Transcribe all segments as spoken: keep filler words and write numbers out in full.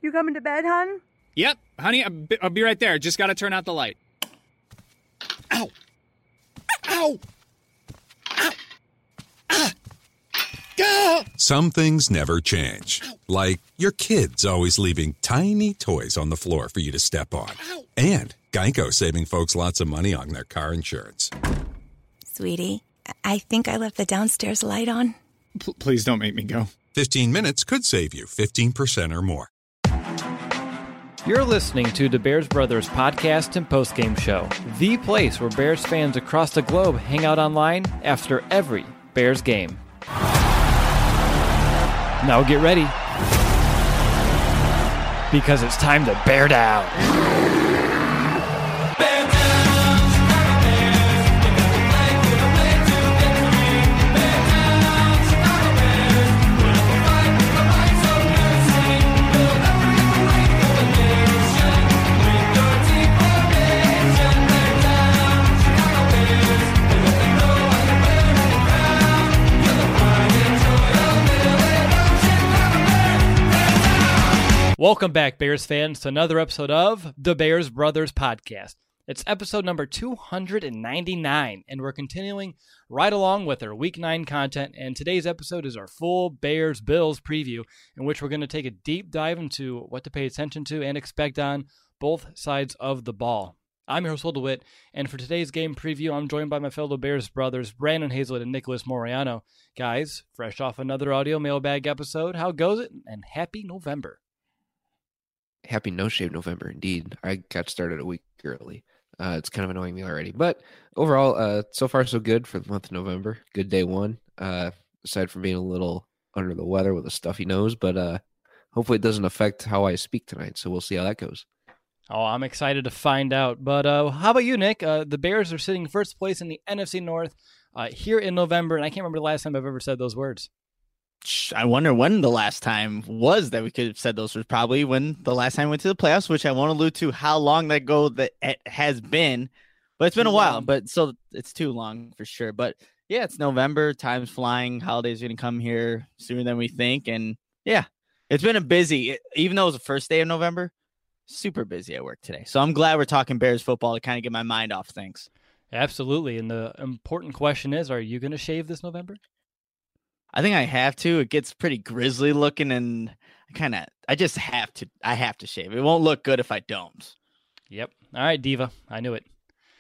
You coming to bed, hon? Yep, honey, I'll be, I'll be right there. Just gotta turn out the light. Ow! Ow! Ow! Ah! Ah! Some things never change. Like your kids always leaving tiny toys on the floor for you to step on. And Geico saving folks lots of money on their car insurance. Sweetie, I think I left the downstairs light on. P- please don't make me go. fifteen minutes could save you fifteen percent or more. You're listening to the Bears Brothers podcast and postgame show, the place where Bears fans across the globe hang out online after every Bears game. Now get ready, because it's time to bear down. Bear down, Chicago Bears, if you play, we're gonna play to victory. Bear down, Chicago Bears, we're gonna fight with the rights of mercy. We'll never get the ring of the nation. With your team formation, bear down, Chicago Bears, and let them know how you're wearing the crown. You're the pride and joy of Illinois, Chicago Bears, bear down. Welcome back, Bears fans, to another episode of the Bears Brothers podcast. It's episode number two hundred ninety-nine, and we're continuing right along with our Week nine content, and today's episode is our full Bears-Bills preview, in which we're going to take a deep dive into what to pay attention to and expect on both sides of the ball. I'm your host, Will DeWitt, and for today's game preview, I'm joined by my fellow Bears brothers, Brandon Hazlett and Nicholas Moriano. Guys, fresh off another audio mailbag episode, how goes it? And happy November. Happy No Shave November, indeed. I got started a week early. Uh, it's kind of annoying me already. But overall, uh, so far so good for the month of November. Good day one, uh, aside from being a little under the weather with a stuffy nose. But uh, hopefully it doesn't affect how I speak tonight, so we'll see how that goes. Oh, I'm excited to find out. But uh, how about you, Nick? Uh, the Bears are sitting first place in the N F C North uh, here in November, and I can't remember the last time I've ever said those words. I wonder when the last time was that we could have said those was probably when the last time we went to the playoffs, which I won't allude to how long that ago that it has been, but it's been Too a while, long. but so it's too long for sure. But yeah, it's November, time's flying, holidays are going to come here sooner than we think. And yeah, it's been a busy, even though it was the first day of November, super busy at work today. So I'm glad we're talking Bears football to kind of get my mind off things. Absolutely. And the important question is, are you going to shave this November? I think I have to. It gets pretty grisly looking, and I kind of, I just have to, I have to shave. It won't look good if I don't. Yep. All right, Diva. I knew it.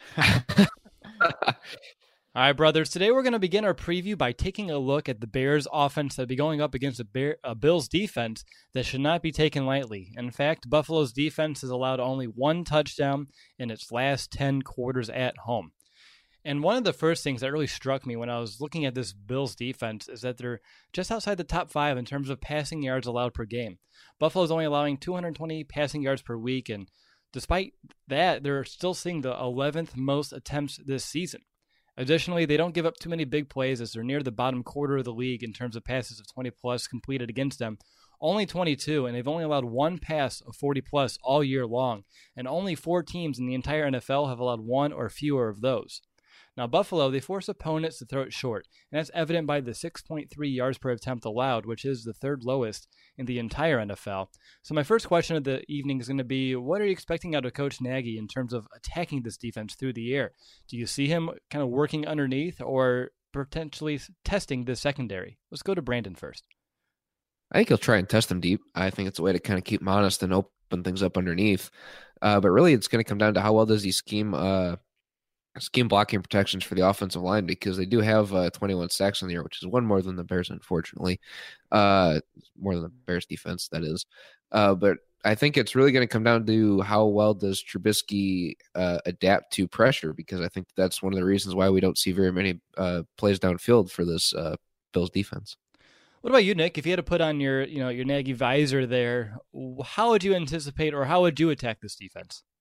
All right, brothers. Today we're going to begin our preview by taking a look at the Bears offense that'll be going up against a, Bear, a Bills defense that should not be taken lightly. In fact, Buffalo's defense has allowed only one touchdown in its last ten quarters at home. And one of the first things that really struck me when I was looking at this Bills defense is that they're just outside the top five in terms of passing yards allowed per game. Buffalo's only allowing two hundred twenty passing yards per week, and despite that, they're still seeing the eleventh most attempts this season. Additionally, they don't give up too many big plays as they're near the bottom quarter of the league in terms of passes of twenty plus completed against them. Only twenty-two, and they've only allowed one pass of forty plus all year long, and only four teams in the entire N F L have allowed one or fewer of those. Now, Buffalo, they force opponents to throw it short, and that's evident by the six point three yards per attempt allowed, which is the third lowest in the entire N F L. So my first question of the evening is going to be, what are you expecting out of Coach Nagy in terms of attacking this defense through the air? Do you see him kind of working underneath or potentially testing the secondary? Let's go to Brandon first. I think he'll try and test them deep. I think it's a way to kind of keep them honest and open things up underneath. Uh, but really, it's going to come down to how well does he scheme uh, scheme blocking protections for the offensive line, because they do have uh, twenty-one sacks in the year, which is one more than the Bears, unfortunately. Uh, more than the Bears defense, that is. Uh, but I think it's really going to come down to how well does Trubisky uh, adapt to pressure, because I think that's one of the reasons why we don't see very many uh, plays downfield for this uh, Bills defense. What about you, Nick? If you had to put on your, you know, your Nagy visor there, how would you anticipate or how would you attack this defense?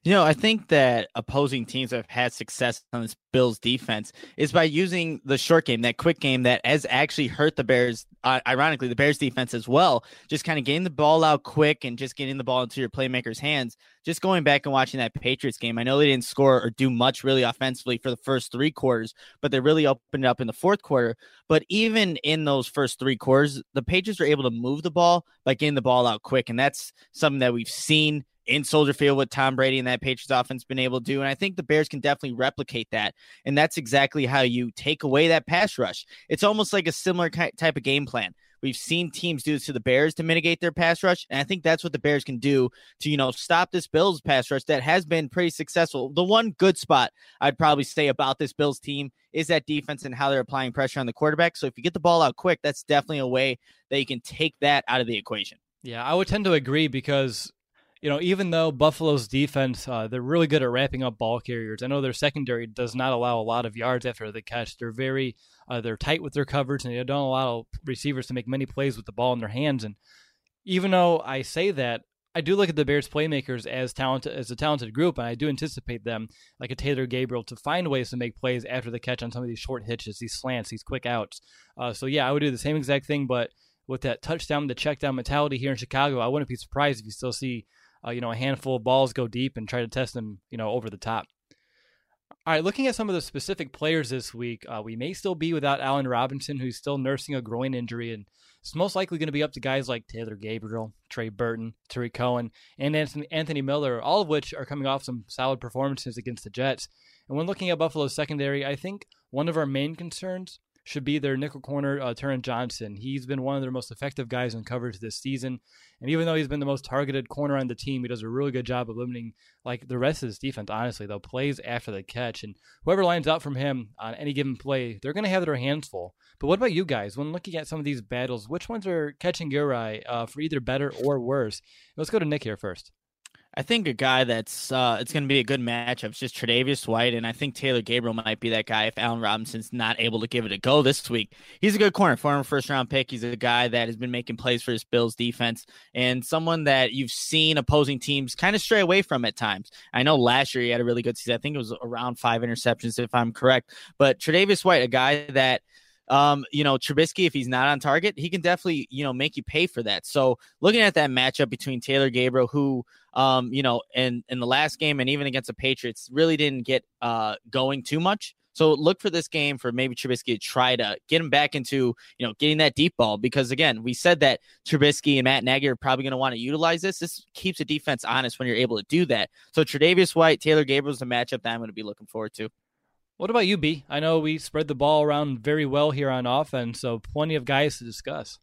You know, I think that opposing teams that have had success on this Bills defense is by using the short game, that quick game that has actually hurt the Bears, uh, ironically, the Bears defense as well. Just kind of getting the ball out quick and just getting the ball into your playmakers' hands. Just going back and watching that Patriots game, I know they didn't score or do much really offensively for the first three quarters, but they really opened it up in the fourth quarter. But even in those first three quarters, the Patriots were able to move the ball by getting the ball out quick. And that's something that we've seen in Soldier Field with Tom Brady and that Patriots offense been able to do. And I think the Bears can definitely replicate that. And that's exactly how you take away that pass rush. It's almost like a similar type of game plan. We've seen teams do this to the Bears to mitigate their pass rush. And I think that's what the Bears can do to, you know, stop this Bills pass rush that has been pretty successful. The one good spot I'd probably say about this Bills team is that defense and how they're applying pressure on the quarterback. So if you get the ball out quick, that's definitely a way that you can take that out of the equation. Yeah, I would tend to agree because, you know, even though Buffalo's defense, uh, they're really good at wrapping up ball carriers. I know their secondary does not allow a lot of yards after the catch. They're very, uh, they're tight with their coverage, and they don't allow receivers to make many plays with the ball in their hands. And even though I say that, I do look at the Bears playmakers as talented, as a talented group, and I do anticipate them, like a Taylor Gabriel, to find ways to make plays after the catch on some of these short hitches, these slants, these quick outs. Uh, so yeah, I would do the same exact thing, but with that touchdown, the check down mentality here in Chicago, I wouldn't be surprised if you still see Uh, you know, a handful of balls go deep and try to test them, you know, over the top. All right, looking at some of the specific players this week, uh, we may still be without Allen Robinson, who's still nursing a groin injury, and it's most likely going to be up to guys like Taylor Gabriel, Trey Burton, Tariq Cohen, and Anthony, Anthony Miller, all of which are coming off some solid performances against the Jets. And when looking at Buffalo's secondary, I think one of our main concerns should be their nickel corner, uh, Taron Johnson. He's been one of their most effective guys in coverage this season. And even though he's been the most targeted corner on the team, he does a really good job of limiting, like the rest of this defense, honestly, though, plays after the catch. And whoever lines up from him on any given play, they're going to have their hands full. But what about you guys? When looking at some of these battles, which ones are catching your eye uh, for either better or worse? Let's go to Nick here first. I think a guy that's uh, it's going to be a good matchup is just Tre'Davious White, and I think Taylor Gabriel might be that guy if Allen Robinson's not able to give it a go this week. He's a good corner, former first-round pick. He's a guy that has been making plays for his Bills defense and someone that you've seen opposing teams kind of stray away from at times. I know last year he had a really good season. I think it was around five interceptions, if I'm correct. But Tre'Davious White, a guy that Um, you know, Trubisky, if he's not on target, he can definitely, you know, make you pay for that. So looking at that matchup between Taylor Gabriel, who, um, you know, in, in the last game and even against the Patriots, really didn't get uh, going too much. So look for this game for maybe Trubisky to try to get him back into, you know, getting that deep ball. Because, again, we said that Trubisky and Matt Nagy are probably going to want to utilize this. This keeps the defense honest when you're able to do that. So Tre'Davious White, Taylor Gabriel is a matchup that I'm going to be looking forward to. What about you, B? I know we spread the ball around very well here on offense, so plenty of guys to discuss.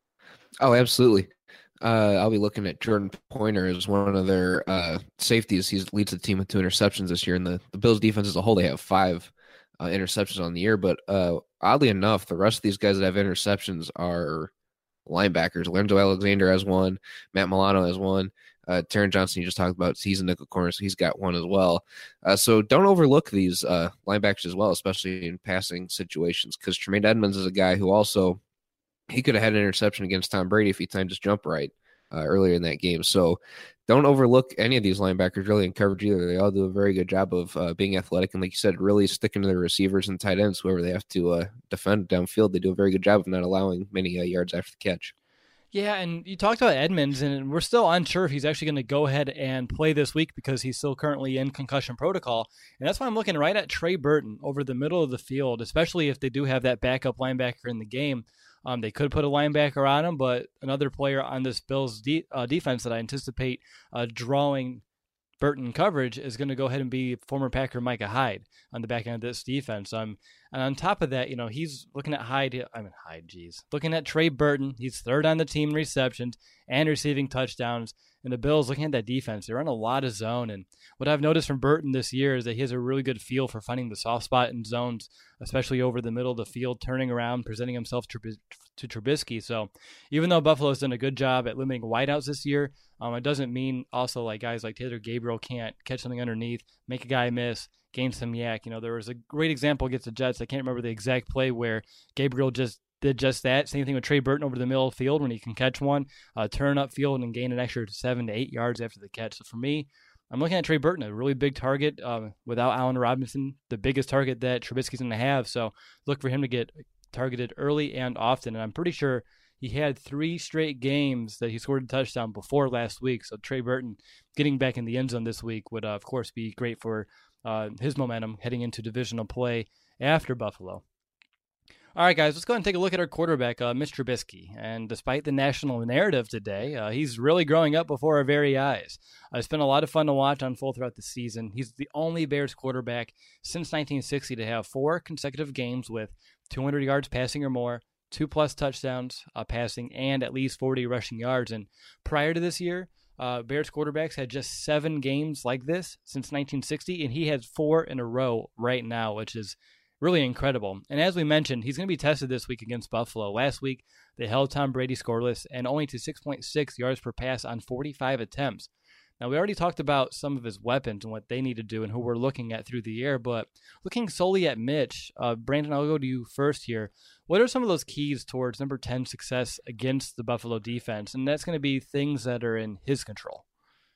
Oh, absolutely. Uh, I'll be looking at Jordan Pointer as one of their uh, safeties. He leads the team with two interceptions this year, and the, the Bills defense as a whole, they have five uh, interceptions on the year. But uh, oddly enough, the rest of these guys that have interceptions are linebackers. Lorenzo Alexander has one. Matt Milano has one. Uh, Taron Johnson, you just talked about, he's a nickel corner, so he's got one as well. Uh, so don't overlook these uh, linebackers as well, especially in passing situations, because Tremaine Edmonds is a guy who also, he could have had an interception against Tom Brady if he timed his jump right uh, earlier in that game. So don't overlook any of these linebackers really in coverage either. They all do a very good job of uh, being athletic and, like you said, really sticking to their receivers and tight ends, whoever they have to uh, defend downfield. They do a very good job of not allowing many uh, yards after the catch. Yeah, and you talked about Edmonds, and we're still unsure if he's actually going to go ahead and play this week because he's still currently in concussion protocol. And that's why I'm looking right at Trey Burton over the middle of the field, especially if they do have that backup linebacker in the game. Um, they could put a linebacker on him, but another player on this Bills de- uh, defense that I anticipate uh, drawing Burton coverage is going to go ahead and be former Packer Micah Hyde on the back end of this defense. Um, and on top of that, you know, he's looking at Hyde. I mean, Hyde, geez. Looking at Trey Burton. He's third on the team in receptions and receiving touchdowns. And the Bills, looking at that defense, they run a lot of zone. And what I've noticed from Burton this year is that he has a really good feel for finding the soft spot in zones, especially over the middle of the field, turning around, presenting himself to, to Trubisky. So even though Buffalo's done a good job at limiting wideouts this year, um, it doesn't mean also like guys like Taylor Gabriel can't catch something underneath, make a guy miss, gain some yak. You know, there was a great example against the Jets. I can't remember the exact play where Gabriel just did just that. Same thing with Trey Burton over the middle of the field when he can catch one, uh, turn up field and gain an extra seven to eight yards after the catch. So for me, I'm looking at Trey Burton, a really big target uh, without Allen Robinson, the biggest target that Trubisky's going to have. So look for him to get targeted early and often. And I'm pretty sure he had three straight games that he scored a touchdown before last week. So Trey Burton getting back in the end zone this week would, uh, of course, be great for uh, his momentum heading into divisional play after Buffalo. All right, guys, let's go ahead and take a look at our quarterback, uh, Mister Trubisky. And despite the national narrative today, uh, he's really growing up before our very eyes. Uh, it's been a lot of fun to watch unfold throughout the season. He's the only Bears quarterback since nineteen sixty to have four consecutive games with two hundred yards passing or more, two-plus touchdowns uh, passing, and at least forty rushing yards. And prior to this year, uh, Bears quarterbacks had just seven games like this since nineteen sixty, and he has four in a row right now, which is really incredible. And as we mentioned, he's going to be tested this week against Buffalo. Last week, they held Tom Brady scoreless and only to six point six yards per pass on forty-five attempts. Now, we already talked about some of his weapons and what they need to do and who we're looking at through the air, but looking solely at Mitch, uh, Brandon, I'll go to you first here. What are some of those keys towards number ten success against the Buffalo defense? And that's going to be things that are in his control.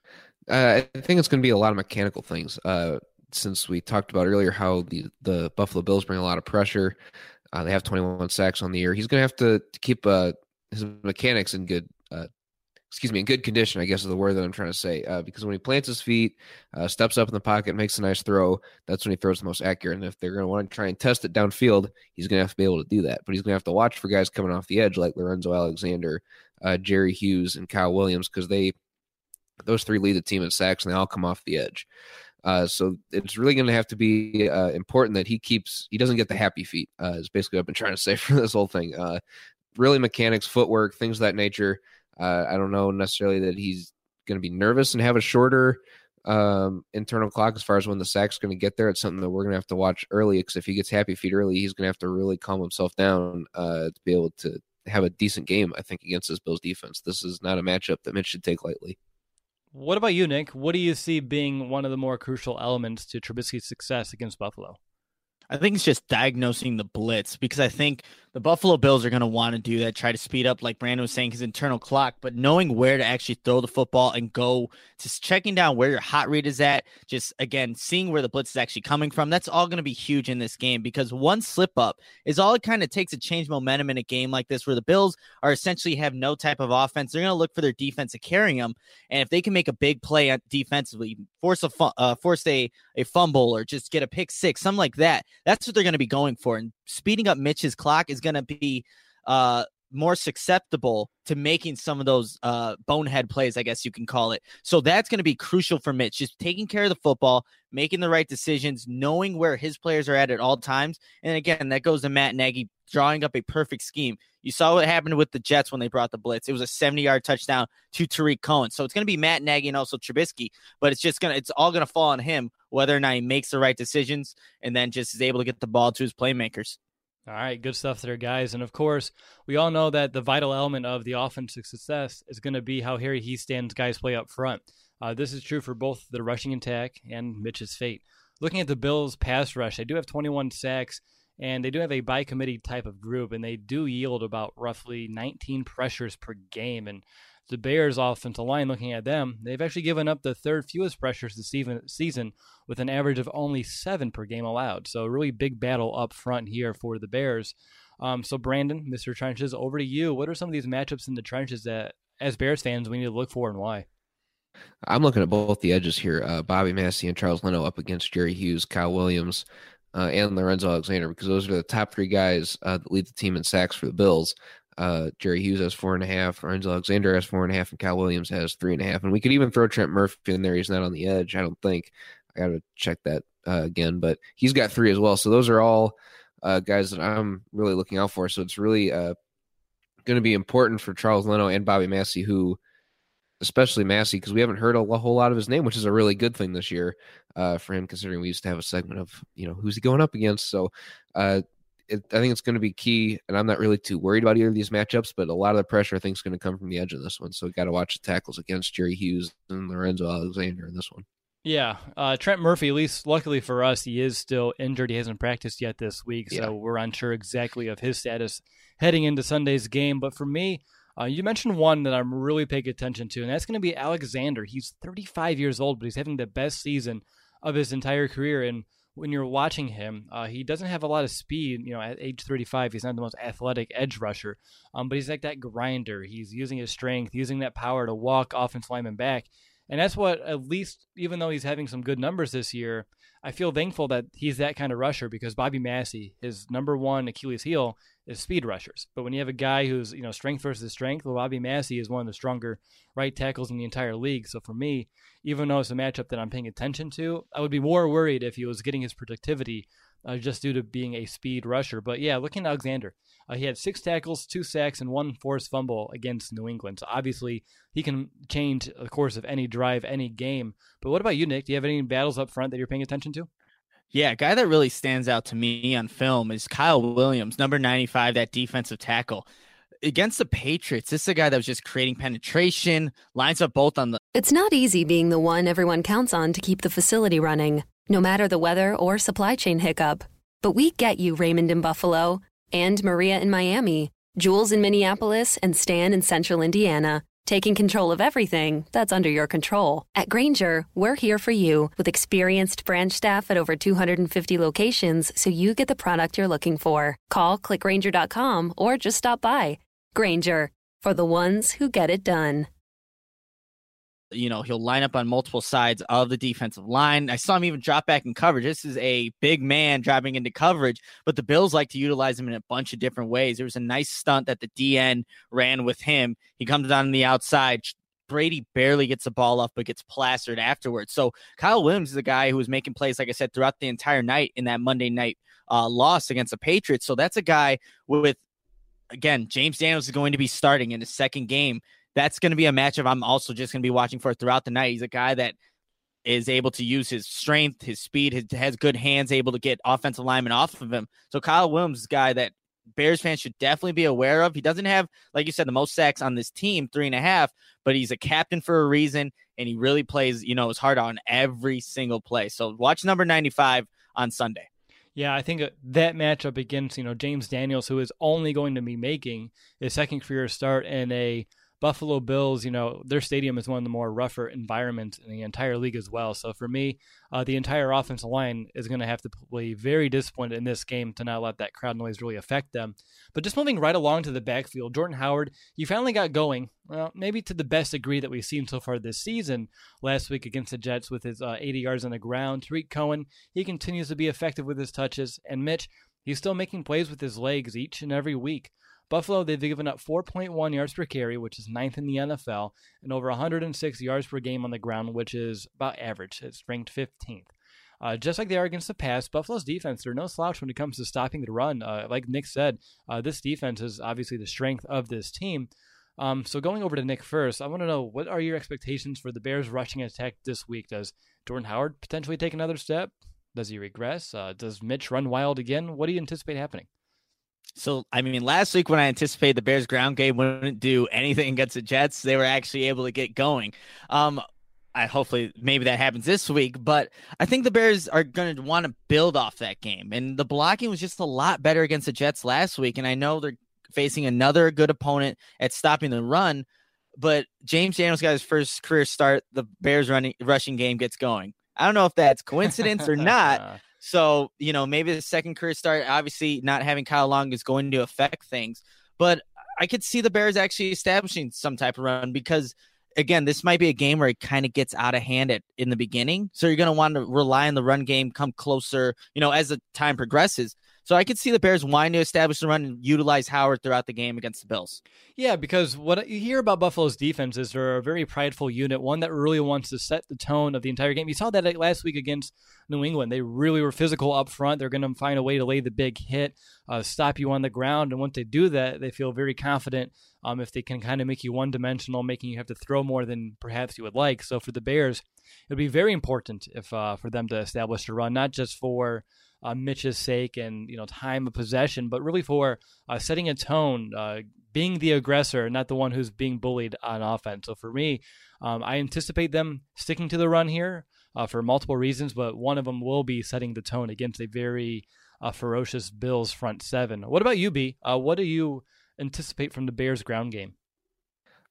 Uh, I think it's going to be a lot of mechanical things. Uh, since we talked about earlier how the, the Buffalo Bills bring a lot of pressure. Uh, they have twenty-one sacks on the year. He's going to have to, to keep uh, his mechanics in good, uh, excuse me, in good condition, I guess is the word that I'm trying to say. Uh, because when he plants his feet, uh, steps up in the pocket, makes a nice throw, that's when he throws the most accurate. And if they're going to want to try and test it downfield, he's going to have to be able to do that. But he's going to have to watch for guys coming off the edge like Lorenzo Alexander, uh, Jerry Hughes, and Kyle Williams, because they those three lead the team in sacks, and they all come off the edge. Uh, so it's really going to have to be uh, important that he keeps, he doesn't get the happy feet, uh, is basically what I've been trying to say for this whole thing. Uh, really mechanics, footwork, things of that nature. Uh, I don't know necessarily that he's going to be nervous and have a shorter um, internal clock as far as when the sack's going to get there. It's something that we're going to have to watch early, because if he gets happy feet early, he's going to have to really calm himself down uh, to be able to have a decent game, I think, against this Bills defense. This is not a matchup that Mitch should take lightly. What about you, Nick? What do you see being one of the more crucial elements to Trubisky's success against Buffalo? I think it's just diagnosing the blitz, because I think the Buffalo Bills are going to want to do that, try to speed up, like Brandon was saying, his internal clock, but knowing where to actually throw the football and go, just checking down where your hot read is at, just, again, seeing where the blitz is actually coming from, that's all going to be huge in this game, because one slip up is all it kind of takes to change momentum in a game like this, where the Bills are essentially have no type of offense. They're going to look for their defense to carry them, and if they can make a big play defensively, force a fu- uh, force a, a fumble, or just get a pick six, something like that, that's what they're going to be going for. And speeding up Mitch's clock is going to be uh, more susceptible to making some of those uh, bonehead plays, I guess you can call it. So that's going to be crucial for Mitch, just taking care of the football, making the right decisions, knowing where his players are at at all times. And again, that goes to Matt Nagy drawing up a perfect scheme. You saw what happened with the Jets when they brought the blitz. It was a seventy-yard touchdown to Tariq Cohen. So it's going to be Matt Nagy and also Trubisky, but it's just going to, it's all going to fall on him, whether or not he makes the right decisions and then just is able to get the ball to his playmakers. All right, good stuff there, guys. And of course, we all know that the vital element of the offensive success is going to be how Harry Hiestands guys play up front. Uh, this is true for both the rushing attack and Mitch's fate. Looking at the Bills' pass rush, they do have twenty-one sacks, and they do have a by-committee type of group, and they do yield about roughly nineteen pressures per game. And the Bears' offensive line, looking at them, they've actually given up the third fewest pressures this season with an average of only seven per game allowed. So a really big battle up front here for the Bears. Um, so Brandon, Mister Trenches, over to you. What are some of these matchups in the trenches that, as Bears fans, we need to look for, and why? I'm looking at both the edges here. Uh, Bobby Massey and Charles Leno up against Jerry Hughes, Kyle Williams, uh, and Lorenzo Alexander, because those are the top three guys uh, that lead the team in sacks for the Bills. Uh, Jerry Hughes has four and a half, Lorenzo Alexander has four and a half, and Kyle Williams has three and a half. And we could even throw Trent Murphy in there. He's not on the edge, I don't think. I got to check that uh, again, but he's got three as well. So those are all uh, guys that I'm really looking out for. So it's really uh, going to be important for Charles Leno and Bobby Massey, who, especially Massey, because we haven't heard a whole lot of his name, which is a really good thing this year uh, for him, considering we used to have a segment of, you know, who's he going up against. So uh, it, I think it's going to be key, and I'm not really too worried about either of these matchups, but a lot of the pressure I think is going to come from the edge of this one. So we got to watch the tackles against Jerry Hughes and Lorenzo Alexander in this one. Yeah, uh, Trent Murphy, at least luckily for us, he is still injured. He hasn't practiced yet this week, so yeah. We're unsure exactly of his status heading into Sunday's game. But for me, Uh, you mentioned one that I'm really paying attention to, and that's going to be Alexander. He's thirty-five years old, but he's having the best season of his entire career. And when you're watching him, uh, he doesn't have a lot of speed. You know, at age thirty-five, he's not the most athletic edge rusher, um, but he's like that grinder. He's using his strength, using that power to walk offensive linemen back. And that's what, at least, even though he's having some good numbers this year, I feel thankful that he's that kind of rusher, because Bobby Massey, his number one Achilles heel is speed rushers. But when you have a guy who's, you know, strength versus strength, well, Bobby Massey is one of the stronger right tackles in the entire league. So for me, even though it's a matchup that I'm paying attention to, I would be more worried if he was getting his productivity uh, just due to being a speed rusher. But yeah, looking at Alexander, uh, he had six tackles, two sacks, and one forced fumble against New England. So obviously he can change the course of any drive, any game. But what about you, Nick? Do you have any battles up front that you're paying attention to? Yeah, a guy that really stands out to me on film is Kyle Williams, number ninety-five, that defensive tackle. Against the Patriots, this is a guy that was just creating penetration, lines up both on the... It's not easy being the one everyone counts on to keep the facility running, no matter the weather or supply chain hiccup. But we get you, Raymond in Buffalo, and Maria in Miami, Jules in Minneapolis, and Stan in Central Indiana, taking control of everything that's under your control. At Grainger, we're here for you with experienced branch staff at over two hundred fifty locations, so you get the product you're looking for. Call, click Grainger dot com, or just stop by. Grainger, for the ones who get it done. You know, he'll line up on multiple sides of the defensive line. I saw him even drop back in coverage. This is a big man dropping into coverage, but the Bills like to utilize him in a bunch of different ways. There was a nice stunt that the D N ran with him. He comes down on the outside. Brady barely gets the ball off, but gets plastered afterwards. So Kyle Williams is a guy who was making plays, like I said, throughout the entire night in that Monday night uh, loss against the Patriots. So that's a guy with, again, James Daniels is going to be starting in the second game. That's going to be a matchup I'm also just going to be watching for throughout the night. He's a guy that is able to use his strength, his speed, his, has good hands, able to get offensive linemen off of him. So Kyle Williams is a guy that Bears fans should definitely be aware of. He doesn't have, like you said, the most sacks on this team, three and a half, but he's a captain for a reason, and he really plays, you know, his heart on every single play. So watch number ninety-five on Sunday. Yeah, I think that matchup against, you know, James Daniels, who is only going to be making his second career start in a Buffalo Bills, you know, their stadium is one of the more rougher environments in the entire league as well. So for me, uh, the entire offensive line is going to have to be very disciplined in this game to not let that crowd noise really affect them. But just moving right along to the backfield, Jordan Howard, he finally got going, well, maybe to the best degree that we've seen so far this season. Last week against the Jets with his uh, eighty yards on the ground. Tariq Cohen, he continues to be effective with his touches. And Mitch, he's still making plays with his legs each and every week. Buffalo, they've given up four point one yards per carry, which is ninth in the N F L, and over one hundred six yards per game on the ground, which is about average. It's ranked fifteenth. Uh, just like they are against the pass, Buffalo's defense, they're no slouch when it comes to stopping the run. Uh, like Nick said, uh, this defense is obviously the strength of this team. Um, so going over to Nick first, I want to know, what are your expectations for the Bears' rushing attack this week? Does Jordan Howard potentially take another step? Does he regress? Uh, does Mitch run wild again? What do you anticipate happening? So, I mean, last week when I anticipated the Bears ground game wouldn't do anything against the Jets, they were actually able to get going. Um, I hopefully maybe that happens this week, but I think the Bears are going to want to build off that game. And the blocking was just a lot better against the Jets last week. And I know they're facing another good opponent at stopping the run, but James Daniels got his first career start. The Bears running rushing game gets going. I don't know if that's coincidence or not. So, you know, maybe the second career start, obviously not having Kyle Long is going to affect things. But I could see the Bears actually establishing some type of run because, again, this might be a game where it kind of gets out of hand at, in the beginning. So you're going to want to rely on the run game, come closer, you know, as the time progresses. So I could see the Bears wanting to establish the run and utilize Howard throughout the game against the Bills. Yeah, because what you hear about Buffalo's defense is they're a very prideful unit, one that really wants to set the tone of the entire game. You saw that last week against New England. They really were physical up front. They're going to find a way to lay the big hit, uh, stop you on the ground. And once they do that, they feel very confident um, if they can kind of make you one-dimensional, making you have to throw more than perhaps you would like. So for the Bears, it would be very important if uh, for them to establish a run, not just for Uh, Mitch's sake and, you know, time of possession, but really for uh, setting a tone, uh, being the aggressor, not the one who's being bullied on offense. So for me, um, I anticipate them sticking to the run here uh, for multiple reasons, but one of them will be setting the tone against a very uh, ferocious Bills front seven. What about you, B? Uh, what do you anticipate from the Bears ground game?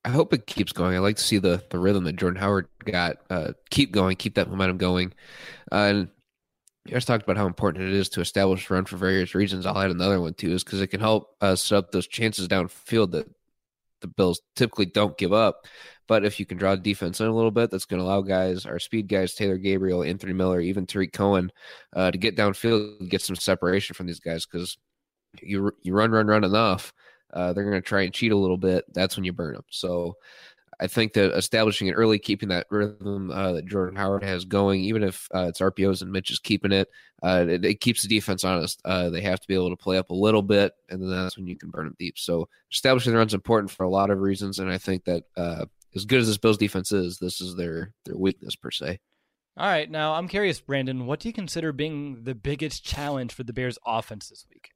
I hope it keeps going. I like to see the the rhythm that Jordan Howard got uh, keep going, keep that momentum going. Uh, and you guys talked about how important it is to establish run for various reasons. I'll add another one too, is because it can help uh, set up those chances downfield that the Bills typically don't give up. But if you can draw the defense in a little bit, that's going to allow guys, our speed guys, Taylor Gabriel, Anthony Miller, even Tariq Cohen, uh, to get downfield and get some separation from these guys. Because you you run, run, run enough, uh, they're going to try and cheat a little bit. That's when you burn them. So I think that establishing it early, keeping that rhythm uh, that Jordan Howard has going, even if uh, it's R P Os and Mitch is keeping it, uh, it, it keeps the defense honest. Uh, they have to be able to play up a little bit, and then that's when you can burn them deep. So establishing the run is important for a lot of reasons, and I think that uh, as good as this Bills defense is, this is their their weakness per se. All right, now I'm curious, Brandon, what do you consider being the biggest challenge for the Bears offense this week?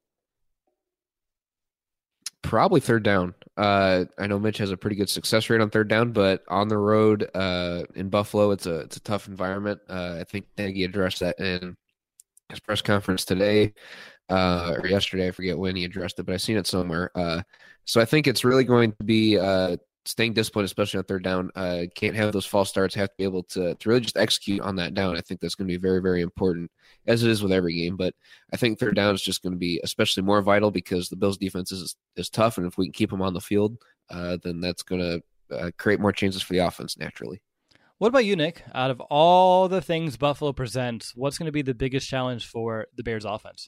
Probably third down. Uh, I know Mitch has a pretty good success rate on third down, but on the road uh, in Buffalo, it's a it's a tough environment. Uh, I think Nagy addressed that in his press conference today uh, or yesterday. I forget when he addressed it, but I've seen it somewhere. Uh, so I think it's really going to be uh, staying disciplined, especially on third down. Uh, can't have those false starts. Have to be able to, to really just execute on that down. I think that's going to be very, very important, as it is with every game. But I think third down is just going to be especially more vital because the Bills' defense is is tough, and if we can keep them on the field, uh, then that's going to uh, create more chances for the offense naturally. What about you, Nick? Out of all the things Buffalo presents, what's going to be the biggest challenge for the Bears' offense?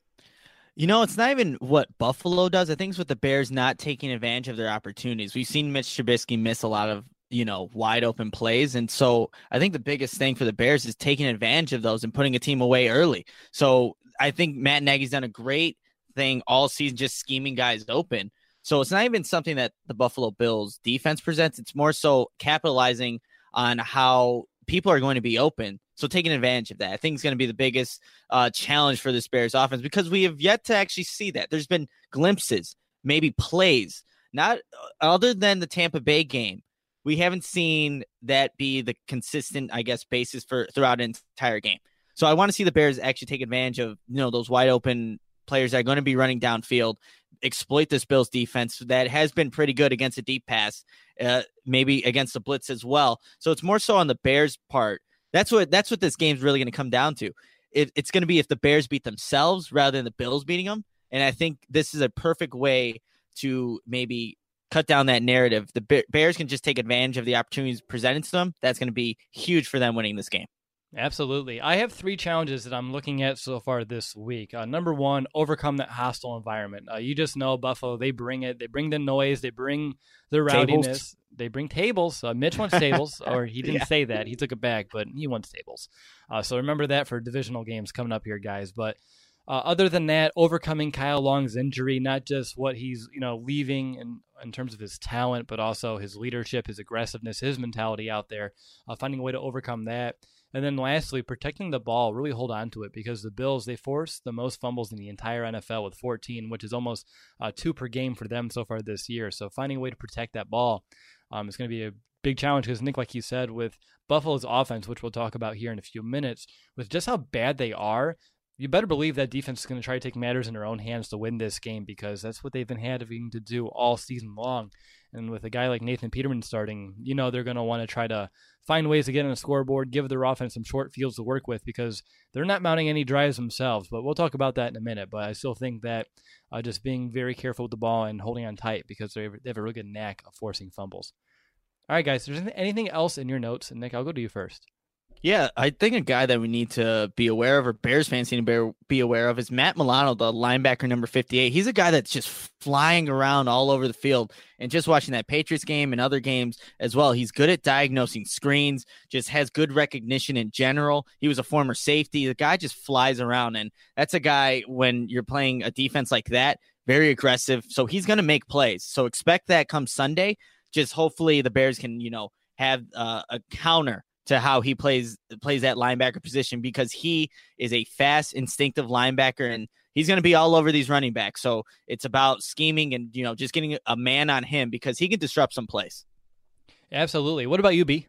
You know, it's not even what Buffalo does. I think it's with the Bears not taking advantage of their opportunities. We've seen Mitch Trubisky miss a lot of, you know, wide open plays. And so I think the biggest thing for the Bears is taking advantage of those and putting a team away early. So I think Matt Nagy's done a great thing all season, just scheming guys open. So it's not even something that the Buffalo Bills defense presents. It's more so capitalizing on how people are going to be open. So taking advantage of that, I think is going to be the biggest uh, challenge for this Bears offense, because we have yet to actually see that. There's been glimpses, maybe plays, not other than the Tampa Bay game. We haven't seen that be the consistent, I guess, basis for throughout an entire game. So I want to see the Bears actually take advantage of, you know, those wide open players that are going to be running downfield, exploit this Bills defense that has been pretty good against a deep pass, uh, maybe against the blitz as well. So it's more so on the Bears' part. That's what that's what this game's really going to come down to. It, it's going to be if the Bears beat themselves rather than the Bills beating them. And I think this is a perfect way to maybe cut down that narrative. The Bears can just take advantage of the opportunities presented to them. That's going to be huge for them winning this game. Absolutely. I have three challenges that I'm looking at so far this week. Uh, number one, overcome that hostile environment. Uh, you just know Buffalo, they bring it. They bring the noise. They bring the rowdiness. Tables. They bring tables. Uh, Mitch wants tables, or he didn't yeah. say that. He took it back, but he wants tables. Uh, so remember that for divisional games coming up here, guys. But uh, other than that, overcoming Kyle Long's injury, not just what he's you know leaving in, in terms of his talent, but also his leadership, his aggressiveness, his mentality out there, uh, finding a way to overcome that. And then lastly, protecting the ball, really hold on to it, because the Bills, they force the most fumbles in the entire N F L with fourteen, which is almost uh, two per game for them so far this year. So finding a way to protect that ball um, is going to be a big challenge because, Nick, like you said, with Buffalo's offense, which we'll talk about here in a few minutes, with just how bad they are, you better believe that defense is going to try to take matters in their own hands to win this game, because that's what they've been having to do all season long. And with a guy like Nathan Peterman starting, you know they're going to want to try to find ways to get on the scoreboard, give their offense some short fields to work with, because they're not mounting any drives themselves. But we'll talk about that in a minute. But I still think that uh, just being very careful with the ball and holding on tight, because they have a really good knack of forcing fumbles. All right, guys, is there anything else in your notes? And Nick, I'll go to you first. Yeah, I think a guy that we need to be aware of, or Bears fans need to be aware of, is Matt Milano, the linebacker number fifty-eight. He's a guy that's just flying around all over the field. And just watching that Patriots game and other games as well, he's good at diagnosing screens, just has good recognition in general. He was a former safety. The guy just flies around. And that's a guy, when you're playing a defense like that, very aggressive. So he's going to make plays. So expect that come Sunday. Just hopefully the Bears can, you know, have uh, a counter to how he plays plays that linebacker position, because he is a fast, instinctive linebacker, and he's going to be all over these running backs. So it's about scheming and, you know, just getting a man on him, because he can disrupt some plays. Absolutely. What about you, B?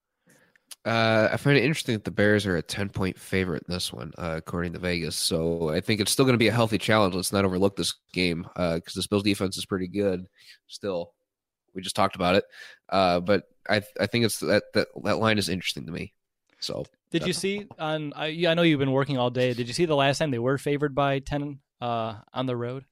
Uh, I find it interesting that the Bears are a ten-point favorite in this one, uh, according to Vegas. So I think it's still going to be a healthy challenge. Let's not overlook this game because uh, this Bills defense is pretty good still. we just talked about it. Uh, but I I think it's that that that line is interesting to me. So did you see on? I, I know you've been working all day. Did you see the last time they were favored by ten uh, on the road?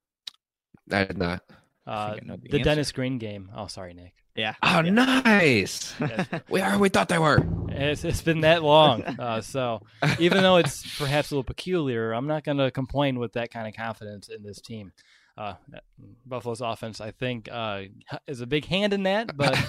I did not. Uh, I know the the answer. Dennis Green game. Oh, sorry, Nick. Yeah. Oh, yeah. nice. we are. We thought they were. It's, it's been that long. Uh, so even though it's perhaps a little peculiar, I'm not going to complain with that kind of confidence in this team. Uh, Buffalo's offense, I think, uh, is a big hand in that. But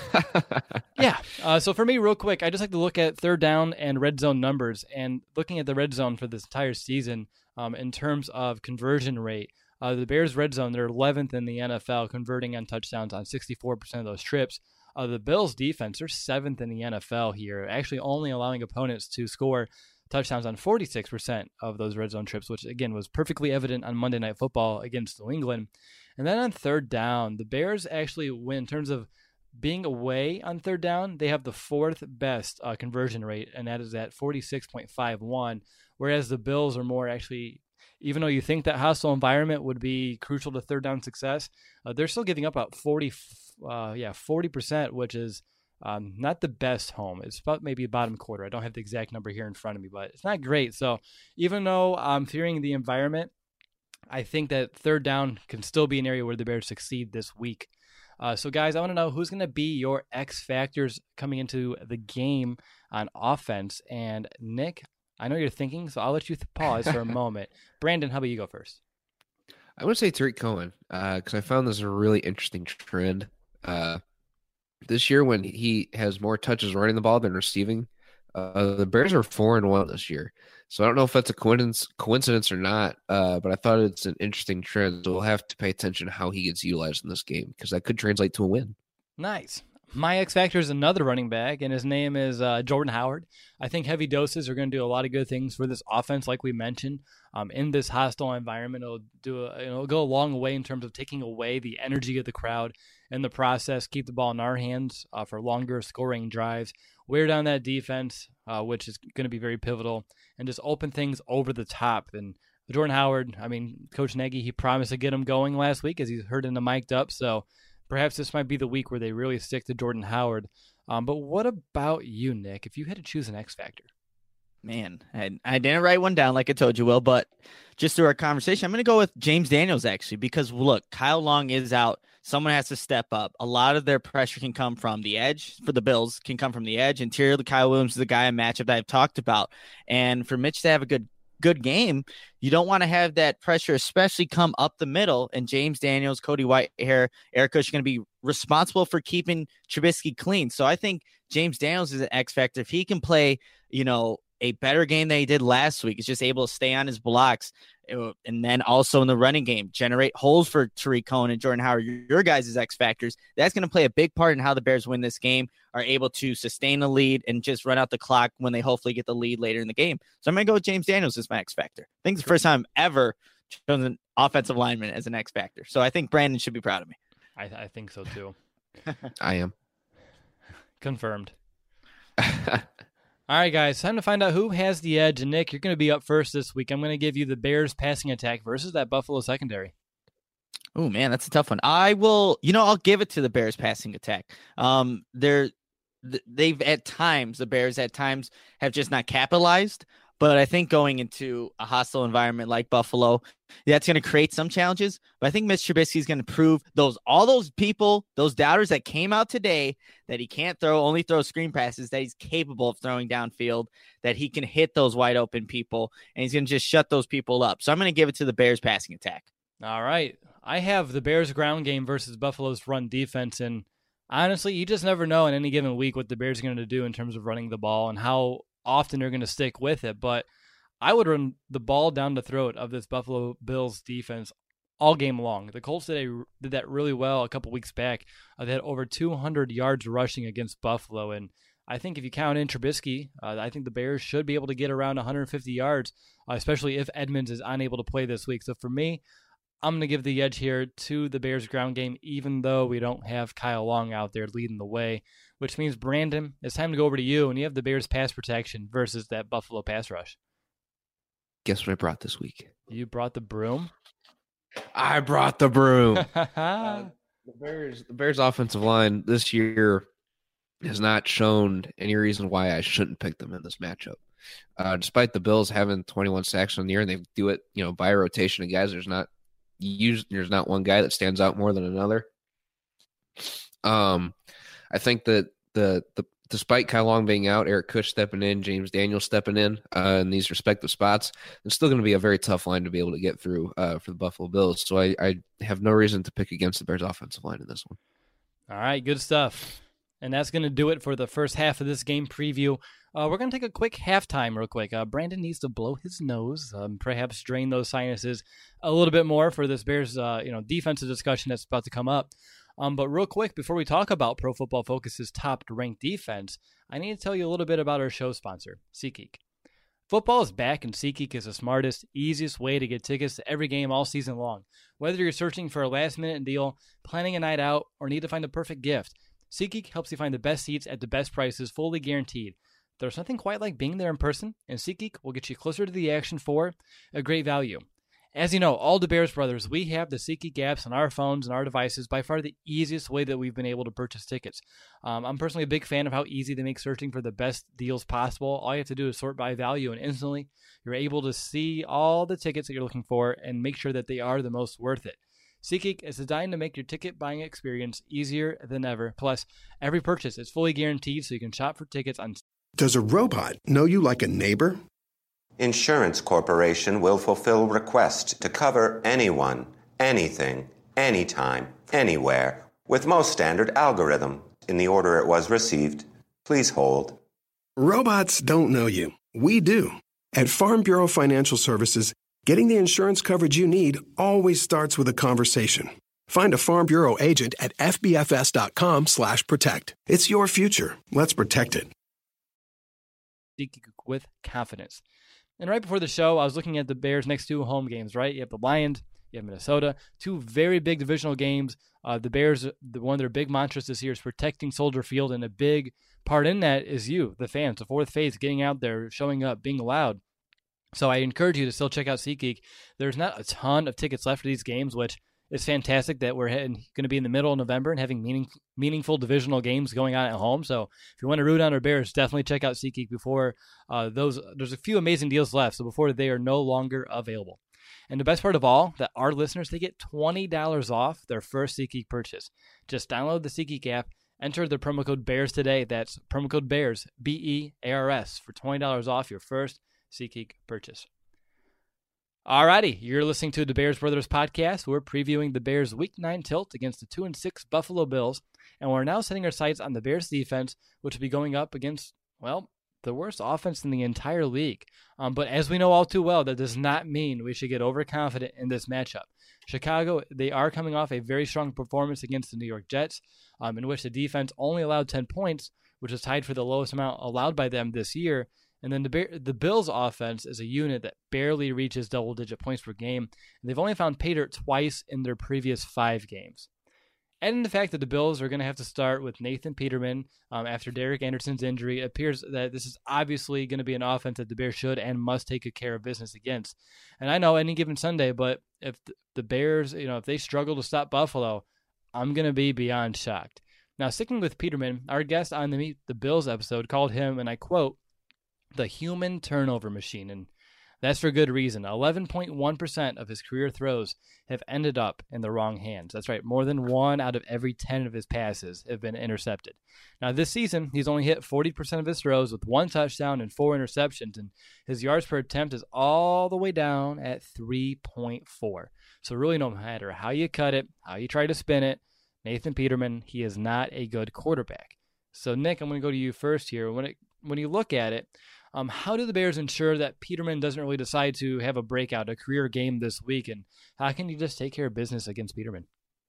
yeah. Uh, so for me, real quick, I just like to look at third down and red zone numbers. And looking at the red zone for this entire season um, in terms of conversion rate, Uh, the Bears' red zone, they're eleventh in the N F L, converting on touchdowns on sixty-four percent of those trips. Uh, the Bills' defense, they're seventh in the N F L here, actually only allowing opponents to score touchdowns on forty-six percent of those red zone trips, which, again, was perfectly evident on Monday Night Football against New England. And then on third down, the Bears actually win in terms of being away on third down. They have the fourth best uh, conversion rate, and that is at forty-six point five one, whereas the Bills are more actually... Even though you think that hostile environment would be crucial to third down success, uh, they're still giving up about forty, uh, yeah, forty percent, which is um, not the best home. It's about maybe a bottom quarter. I don't have the exact number here in front of me, but it's not great. So even though I'm fearing the environment, I think that third down can still be an area where the Bears succeed this week. Uh, so, guys, I want to know who's going to be your X factors coming into the game on offense. And Nick, I know you're thinking, so I'll let you pause for a moment. Brandon, how about you go first? I would say Tariq Cohen because uh, I found this a really interesting trend. Uh, this year, when he has more touches running the ball than receiving, uh, the Bears are four and one this year. So I don't know if that's a coincidence, coincidence or not, uh, but I thought it's an interesting trend. So we'll have to pay attention to how he gets utilized in this game because that could translate to a win. Nice. My X factor is another running back, and his name is uh, Jordan Howard. I think heavy doses are going to do a lot of good things for this offense, like we mentioned. Um, in this hostile environment, it'll do a, you know, it'll go a long way in terms of taking away the energy of the crowd in the process. Keep the ball in our hands uh, for longer scoring drives. Wear down that defense, uh, which is going to be very pivotal, and just open things over the top. And Jordan Howard, I mean, Coach Nagy, he promised to get him going last week as he's heard in the mic'd up. So perhaps this might be the week where they really stick to Jordan Howard. Um, but what about you, Nick, if you had to choose an X factor? Man, I, I didn't write one down like I told you, Will, but just through our conversation, I'm going to go with James Daniels, actually, because, look, Kyle Long is out. Someone has to step up. A lot of their pressure can come from the edge for the Bills, can come from the edge. Interior, the Kyle Williams is the guy in matchup that I've talked about. And for Mitch to have a good good game, you don't want to have that pressure, especially come up the middle. And James Daniels, Cody Whitehair, Eric Kush are going to be responsible for keeping Trubisky clean. So I think James Daniels is an X factor. If he can play, you know, a better game than he did last week, is just able to stay on his blocks, and then also in the running game, generate holes for Tariq Cohen and Jordan Howard, your guys' X factors. That's going to play a big part in how the Bears win this game, are able to sustain the lead and just run out the clock when they hopefully get the lead later in the game. So I'm going to go with James Daniels as my X factor. I think it's the first time ever chosen an offensive lineman as an X factor. So I think Brandon should be proud of me. I, I think so too. I am. Confirmed. All right, guys, time to find out who has the edge. And Nick, you're going to be up first this week. I'm going to give you the Bears passing attack versus that Buffalo secondary. Oh, man, that's a tough one. I will, you know, I'll give it to the Bears passing attack. Um, they're, they've at times, the Bears at times have just not capitalized. But I think going into a hostile environment like Buffalo, that's going to create some challenges. But I think Mitch Trubisky is going to prove those all those people, those doubters that came out today that he can't throw, only throw screen passes, that he's capable of throwing downfield, that he can hit those wide open people, and he's going to just shut those people up. So I'm going to give it to the Bears passing attack. All right. I have the Bears ground game versus Buffalo's run defense. And honestly, you just never know in any given week what the Bears are going to do in terms of running the ball and how often they're going to stick with it. But I would run the ball down the throat of this Buffalo Bills defense all game long. The Colts did, a, did that really well a couple weeks back. Uh, they had over two hundred yards rushing against Buffalo. And I think if you count in Trubisky, uh, I think the Bears should be able to get around one hundred fifty yards, uh, especially if Edmonds is unable to play this week. So for me, I'm going to give the edge here to the Bears ground game, even though we don't have Kyle Long out there leading the way, which means, Brandon, it's time to go over to you, and you have the Bears pass protection versus that Buffalo pass rush. Guess what I brought this week? You brought the broom? I brought the broom. uh, The Bears, the Bears offensive line this year has not shown any reason why I shouldn't pick them in this matchup. Uh, despite the Bills having twenty-one sacks on the year, and they do it, you know, by rotation of guys. There's not usually there's not one guy that stands out more than another. Um, I think that the the despite Kyle Long being out, Eric Kush stepping in, James Daniels stepping in uh, in these respective spots, it's still going to be a very tough line to be able to get through uh, for the Buffalo Bills. So I, I have no reason to pick against the Bears offensive line in this one. All right, good stuff. And that's going to do it for the first half of this game preview. Uh, we're going to take a quick halftime real quick. Uh, Brandon needs to blow his nose, um, perhaps drain those sinuses a little bit more for this Bears uh, you know, defensive discussion that's about to come up. Um, but real quick, before we talk about Pro Football Focus's top-ranked defense, I need to tell you a little bit about our show sponsor, SeatGeek. Football is back, and SeatGeek is the smartest, easiest way to get tickets to every game all season long. Whether you're searching for a last-minute deal, planning a night out, or need to find the perfect gift, SeatGeek helps you find the best seats at the best prices, fully guaranteed. There's nothing quite like being there in person, and SeatGeek will get you closer to the action for a great value. As you know, all the Bears brothers, we have the SeatGeek apps on our phones and our devices, by far the easiest way that we've been able to purchase tickets. Um, I'm personally a big fan of how easy they make searching for the best deals possible. All you have to do is sort by value, and instantly you're able to see all the tickets that you're looking for and make sure that they are the most worth it. SeatGeek is designed to make your ticket buying experience easier than ever. Plus, every purchase is fully guaranteed, so you can shop for tickets on... Does a robot know you like a neighbor? Insurance Corporation will fulfill requests to cover anyone, anything, anytime, anywhere, with most standard algorithm in the order it was received. Please hold. Robots don't know you. We do. At Farm Bureau Financial Services, getting the insurance coverage you need always starts with a conversation. Find a Farm Bureau agent at fbfs.com slash protect. It's your future. Let's protect it. With confidence. And right before the show, I was looking at the Bears' next two home games, right? You have the Lions, you have Minnesota, two very big divisional games. Uh, the Bears, the, one of their big mantras this year is protecting Soldier Field, and a big part in that is you, the fans, the fourth phase, getting out there, showing up, being loud. So I encourage you to still check out SeatGeek. There's not a ton of tickets left for these games, which is fantastic that we're going to be in the middle of November and having meaning, meaningful divisional games going on at home. So if you want to root on our Bears, definitely check out SeatGeek before uh, those. There's a few amazing deals left, so before they are no longer available. And the best part of all, that our listeners, they get twenty dollars off their first SeatGeek purchase. Just download the SeatGeek app, enter the promo code BEARS today. That's promo code BEARS, B E A R S, for twenty dollars off your first SeatGeek purchase. Alrighty, you're listening to the Bears Brothers podcast. We're previewing the Bears' Week nine tilt against the two and six Buffalo Bills, and we're now setting our sights on the Bears defense, which will be going up against, well, the worst offense in the entire league. Um, but as we know all too well, that does not mean we should get overconfident in this matchup. Chicago, they are coming off a very strong performance against the New York Jets, um, in which the defense only allowed ten points, which is tied for the lowest amount allowed by them this year. And then the the Bills' offense is a unit that barely reaches double-digit points per game. And they've only found pay dirt twice in their previous five games. And in the fact that the Bills are going to have to start with Nathan Peterman um, after Derek Anderson's injury, it appears that this is obviously going to be an offense that the Bears should and must take good care of business against. And I know any given Sunday, but if the Bears, you know, if they struggle to stop Buffalo, I'm going to be beyond shocked. Now, sticking with Peterman, our guest on the Meet the Bills episode called him, and I quote, the human turnover machine, and that's for good reason. eleven point one percent of his career throws have ended up in the wrong hands. That's right, more than one out of every ten of his passes have been intercepted. Now, this season, he's only hit forty percent of his throws with one touchdown and four interceptions, and his yards per attempt is all the way down at three point four. So really, no matter how you cut it, how you try to spin it, Nathan Peterman, he is not a good quarterback. So, Nick, I'm going to go to you first here. When it when you look at it, Um, how do the Bears ensure that Peterman doesn't really decide to have a breakout, a career game this week? And how can you just take care of business against Peterman?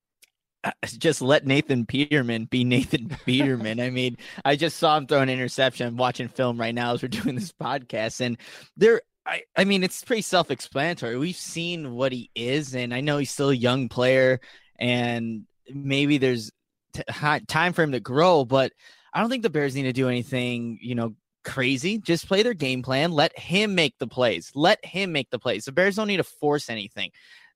Uh, just let Nathan Peterman be Nathan Peterman. I mean, I just saw him throw an interception. I'm watching film right now as we're doing this podcast. And there, I, I mean, it's pretty self-explanatory. We've seen what he is, and I know he's still a young player, and maybe there's t- time for him to grow, but I don't think the Bears need to do anything, you know, crazy. Just play their game plan. Let him make the plays. Let him make the plays. The Bears don't need to force anything.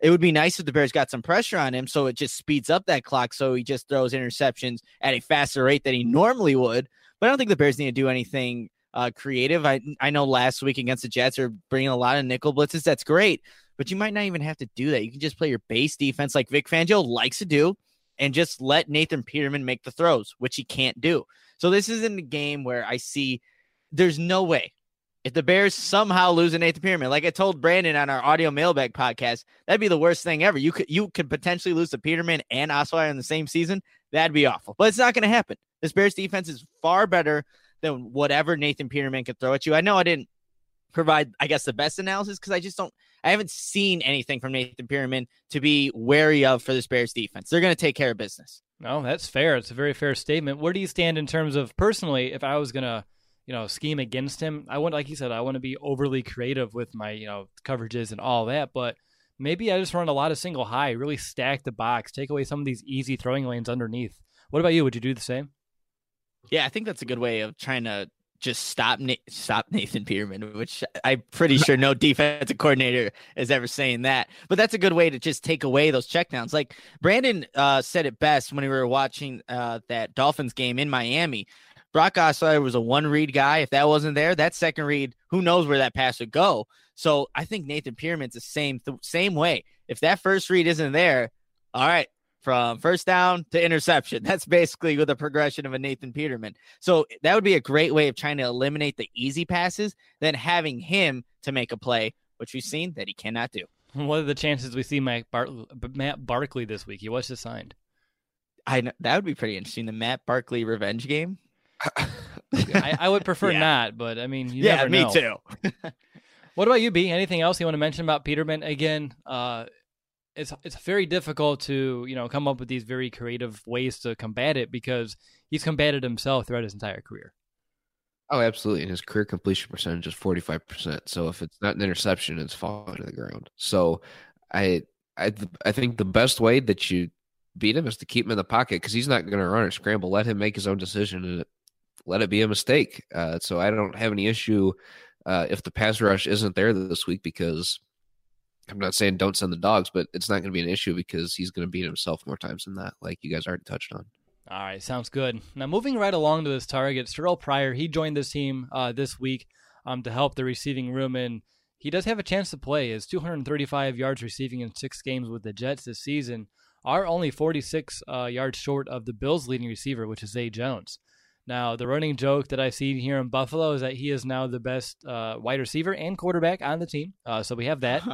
it would be nice if the Bears got some pressure on him so it just speeds up that clock so he just throws interceptions at a faster rate than he normally would. But I don't think the Bears need to do anything uh, creative. I I know last week against the Jets are bringing a lot of nickel blitzes. That's great, but you might not even have to do that. You can just play your base defense like Vic Fangio likes to do and just let Nathan Peterman make the throws, which he can't do. So this isn't a game where I see there's no way. If the Bears somehow lose a Nathan Peterman, like I told Brandon on our audio mailbag podcast, that'd be the worst thing ever. You could you could potentially lose to Peterman and Osweiler in the same season. That'd be awful. But it's not going to happen. This Bears defense is far better than whatever Nathan Peterman could throw at you. I know I didn't provide, I guess, the best analysis because I just don't I haven't seen anything from Nathan Peterman to be wary of for this Bears defense. They're going to take care of business. No, that's fair. It's a very fair statement. Where do you stand in terms of personally, if I was going to you know, scheme against him? I want, like you said, I want to be overly creative with my, you know, coverages and all that, but maybe I just run a lot of single high, really stack the box, take away some of these easy throwing lanes underneath. What about you? Would you do the same? Yeah, I think that's a good way of trying to just stop Na- stop Nathan Peterman, which I'm pretty sure no defensive coordinator is ever saying that. But that's a good way to just take away those checkdowns. Like Brandon uh, said it best when we were watching uh, that Dolphins game in Miami. Brock Osweiler was a one-read guy. If that wasn't there, that second read, who knows where that pass would go. So I think Nathan Peterman's the same th- same way. If that first read isn't there, all right, from first down to interception. That's basically with the progression of a Nathan Peterman. So that would be a great way of trying to eliminate the easy passes than having him to make a play, which we've seen that he cannot do. What are the chances we see Matt, Bar- Matt Barkley this week? He was just signed. I know, that would be pretty interesting. The Matt Barkley revenge game. I, I would prefer yeah. not, but I mean, you yeah, never me know. too. What about you, B? Anything else you want to mention about Peterman? Again, uh, it's it's very difficult to you know come up with these very creative ways to combat it because he's combated himself throughout his entire career. Oh, absolutely. And his career completion percentage is forty-five percent. So if it's not an interception, it's falling to the ground. So I I I think the best way that you beat him is to keep him in the pocket because he's not going to run or scramble. Let him make his own decision and let it be a mistake. Uh, so I don't have any issue uh, if the pass rush isn't there this week because I'm not saying don't send the dogs, but it's not going to be an issue because he's going to beat himself more times than that, like you guys already touched on. All right, sounds good. Now, moving right along to this target, Terrell Pryor, he joined this team uh, this week um, to help the receiving room, and he does have a chance to play. His two hundred thirty-five yards receiving in six games with the Jets this season are only forty-six uh, yards short of the Bills' leading receiver, which is Zay Jones. Now, the running joke that I've seen here in Buffalo is that he is now the best uh, wide receiver and quarterback on the team, uh, so we have that.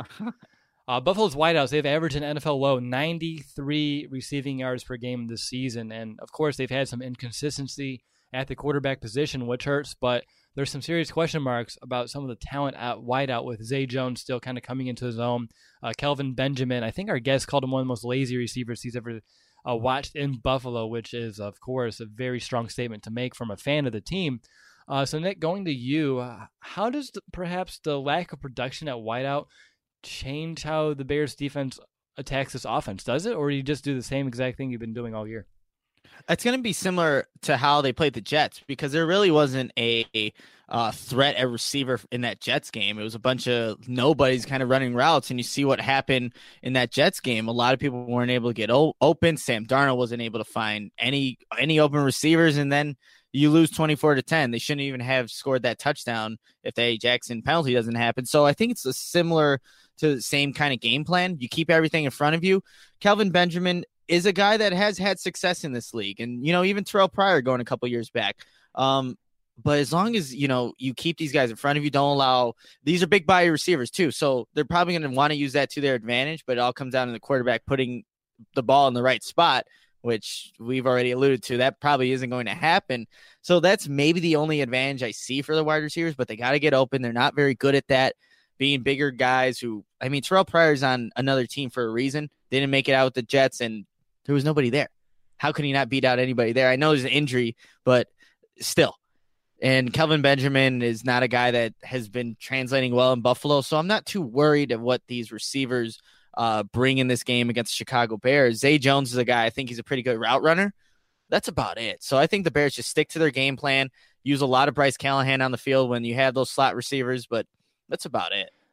Uh, Buffalo's wideouts, they've averaged an N F L low ninety-three receiving yards per game this season. And, of course, they've had some inconsistency at the quarterback position, which hurts. But there's some serious question marks about some of the talent at wideout with Zay Jones still kind of coming into his own. Uh, Kelvin Benjamin, I think our guest called him one of the most lazy receivers he's ever uh, watched in Buffalo, which is, of course, a very strong statement to make from a fan of the team. Uh, so, Nick, going to you, uh, how does the, perhaps the lack of production at wideout change how the Bears defense attacks this offense? Does it, or do you just do the same exact thing you've been doing all year? It's going to be similar to how they played the Jets because there really wasn't a, a uh, threat at receiver in that Jets game. It was a bunch of nobodies kind of running routes, and you see what happened in that Jets game. A lot of people weren't able to get o- open. Sam Darnold wasn't able to find any any open receivers, and then you lose twenty-four to ten. They shouldn't even have scored that touchdown if the A. Jackson penalty doesn't happen. So I think it's a similar to the same kind of game plan. You keep everything in front of you. Kelvin Benjamin is a guy that has had success in this league. And, you know, even Terrell Pryor going a couple years back. Um, but as long as, you know, you keep these guys in front of you, don't allow – these are big body receivers too. So they're probably going to want to use that to their advantage, but it all comes down to the quarterback putting the ball in the right spot, which we've already alluded to. That probably isn't going to happen. So that's maybe the only advantage I see for the wide receivers, but they got to get open. They're not very good at that. Being bigger guys who, I mean, Terrell Pryor's on another team for a reason. They didn't make it out with the Jets, and there was nobody there. How can he not beat out anybody there? I know there's an injury, but still. And Kelvin Benjamin is not a guy that has been translating well in Buffalo, so I'm not too worried of what these receivers uh, bring in this game against the Chicago Bears. Zay Jones is a guy, I think he's a pretty good route runner. That's about it. So I think the Bears just stick to their game plan, use a lot of Bryce Callahan on the field when you have those slot receivers, but that's about it.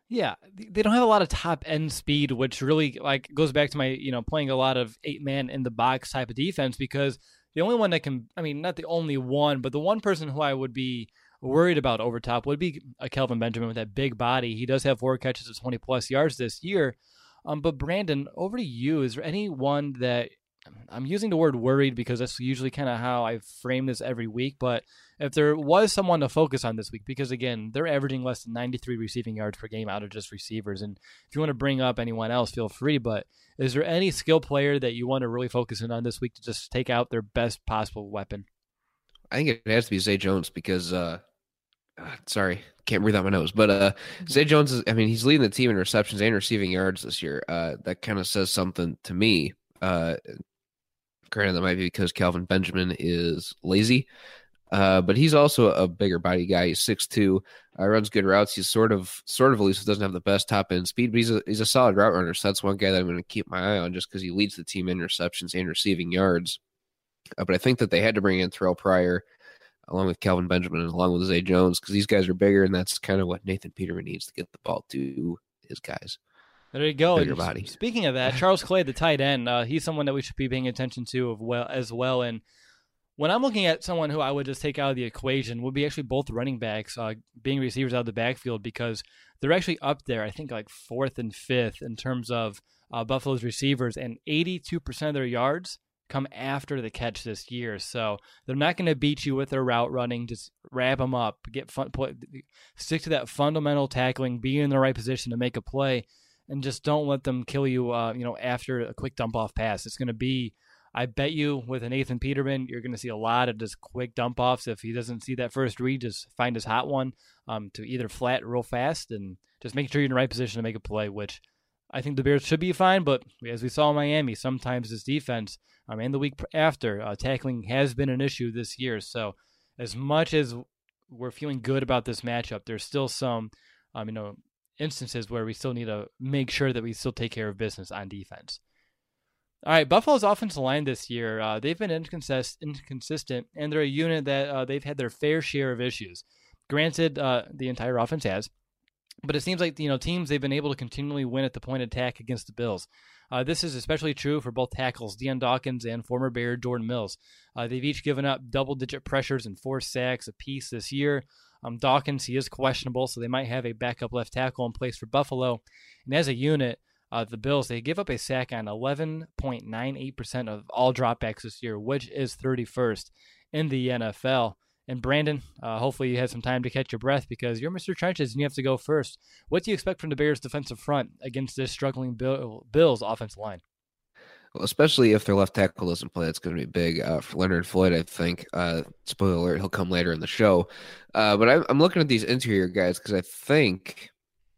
Yeah, they don't have a lot of top end speed, which really like goes back to my, you know, playing a lot of eight man in the box type of defense, because the only one that can, I mean, not the only one, but the one person who I would be worried about over top would be a Kelvin Benjamin with that big body. He does have four catches of twenty plus yards this year. Um, but Brandon, over to you. Is there anyone that, I'm using the word worried because that's usually kind of how I frame this every week, but if there was someone to focus on this week, because again, they're averaging less than ninety-three receiving yards per game out of just receivers, and if you want to bring up anyone else, feel free, but is there any skill player that you want to really focus in on this week to just take out their best possible weapon? I think it has to be Zay Jones because, uh, uh, sorry, can't breathe out my nose, but uh, Zay Jones is, I mean, he's leading the team in receptions and receiving yards this year. Uh, that kind of says something to me. Uh, Granted, that might be because Kelvin Benjamin is lazy, uh, but he's also a bigger body guy. He's six two, uh, runs good routes. He's sort of, sort of elusive, doesn't have the best top end speed, but he's a, he's a solid route runner. So that's one guy that I'm going to keep my eye on just because he leads the team in receptions and receiving yards. Uh, but I think that they had to bring in Terrell Pryor along with Kelvin Benjamin and along with Zay Jones because these guys are bigger, and that's kind of what Nathan Peterman needs to get the ball to his guys. There you go. Bigger body. Speaking of that, Charles Clay, the tight end, uh, he's someone that we should be paying attention to as well, as well. And when I'm looking at someone who I would just take out of the equation, would be actually both running backs uh, being receivers out of the backfield, because they're actually up there, I think, like fourth and fifth in terms of uh, Buffalo's receivers, and eighty-two percent of their yards come after the catch this year. So they're not going to beat you with their route running. Just wrap them up, get fun, put, stick to that fundamental tackling, be in the right position to make a play. And just don't let them kill you, uh, you know, after a quick dump-off pass. It's going to be, I bet you, with a Nathan Peterman, you're going to see a lot of just quick dump-offs. If he doesn't see that first read, just find his hot one um, to either flat real fast and just make sure you're in the right position to make a play, which I think the Bears should be fine. But as we saw in Miami, sometimes this defense, um, and the week after, uh, tackling has been an issue this year. So as much as we're feeling good about this matchup, there's still some, um, you know, instances where we still need to make sure that we still take care of business on defense. All right, Buffalo's offensive line this year, uh, they've been inconsist- inconsistent, and they're a unit that uh, they've had their fair share of issues. Granted, uh, the entire offense has, but it seems like, you know, teams, they've been able to continually win at the point of attack against the Bills. Uh, this is especially true for both tackles, Deion Dawkins and former Bear Jordan Mills. Uh, they've each given up double-digit pressures and four sacks apiece this year. Um, Dawkins, he is questionable, so they might have a backup left tackle in place for Buffalo. And as a unit, uh, the Bills, they give up a sack on eleven point nine eight percent of all dropbacks this year, which is thirty-first in the N F L. And Brandon, uh, hopefully you had some time to catch your breath because you're Mister Trenches and you have to go first. What do you expect from the Bears' defensive front against this struggling Bill, Bills offensive line? Well, especially if their left tackle doesn't play, it's going to be big uh, for Leonard Floyd, I think. Uh, spoiler alert, he'll come later in the show. Uh, but I'm, I'm looking at these interior guys because I think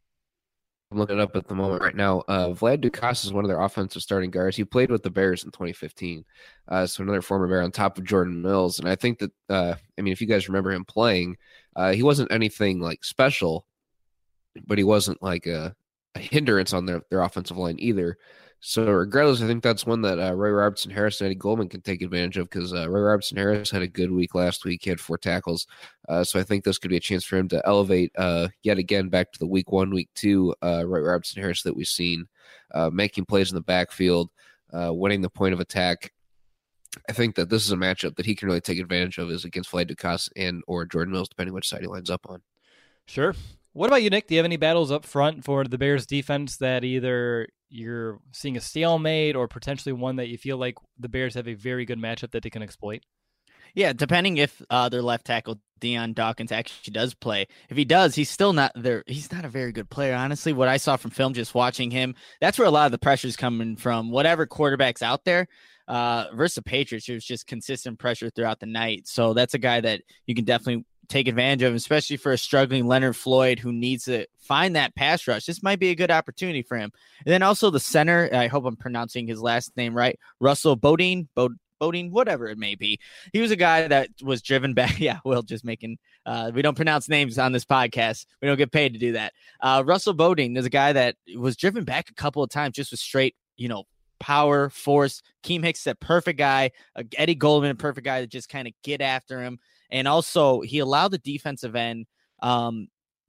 I'm looking it up at the moment right now. Uh, Vlad Ducasse is one of their offensive starting guards. He played with the Bears in twenty fifteen. Uh, so another former Bear on top of Jordan Mills. And I think that, uh, I mean, if you guys remember him playing, uh, he wasn't anything like special, but he wasn't like a, a hindrance on their, their offensive line either. So regardless, I think that's one that uh, Roy Robertson Harris and Eddie Goldman can take advantage of because uh, Roy Robertson Harris had a good week last week. He had four tackles. Uh, so I think this could be a chance for him to elevate uh, yet again back to the week one, week two uh, Roy Robertson Harris that we've seen, uh, making plays in the backfield, uh, winning the point of attack. I think that this is a matchup that he can really take advantage of is against Vlad Ducasse and or Jordan Mills, depending which side he lines up on. Sure. What about you, Nick? Do you have any battles up front for the Bears defense that either you're seeing a stalemate or potentially one that you feel like the Bears have a very good matchup that they can exploit? Yeah, depending if uh, their left tackle Deion Dawkins actually does play. If he does, he's still not there. He's not a very good player, honestly. What I saw from film, just watching him, that's where a lot of the pressure is coming from. Whatever quarterback's out there, uh, versus the Patriots, there's just consistent pressure throughout the night. So that's a guy that you can definitely take advantage of, especially for a struggling Leonard Floyd who needs to find that pass rush. This might be a good opportunity for him. And then also the center, I hope I'm pronouncing his last name right, Russell Bodine, Bod- Bodine, whatever it may be. He was a guy that was driven back. Yeah, Will just making, uh, we don't pronounce names on this podcast. We don't get paid to do that. Uh, Russell Bodine is a guy that was driven back a couple of times just with straight, you know, power, force. Keem Hicks, that perfect guy. Uh, Eddie Goldman, a perfect guy to just kind of get after him. And also, he allowed the defensive end um, to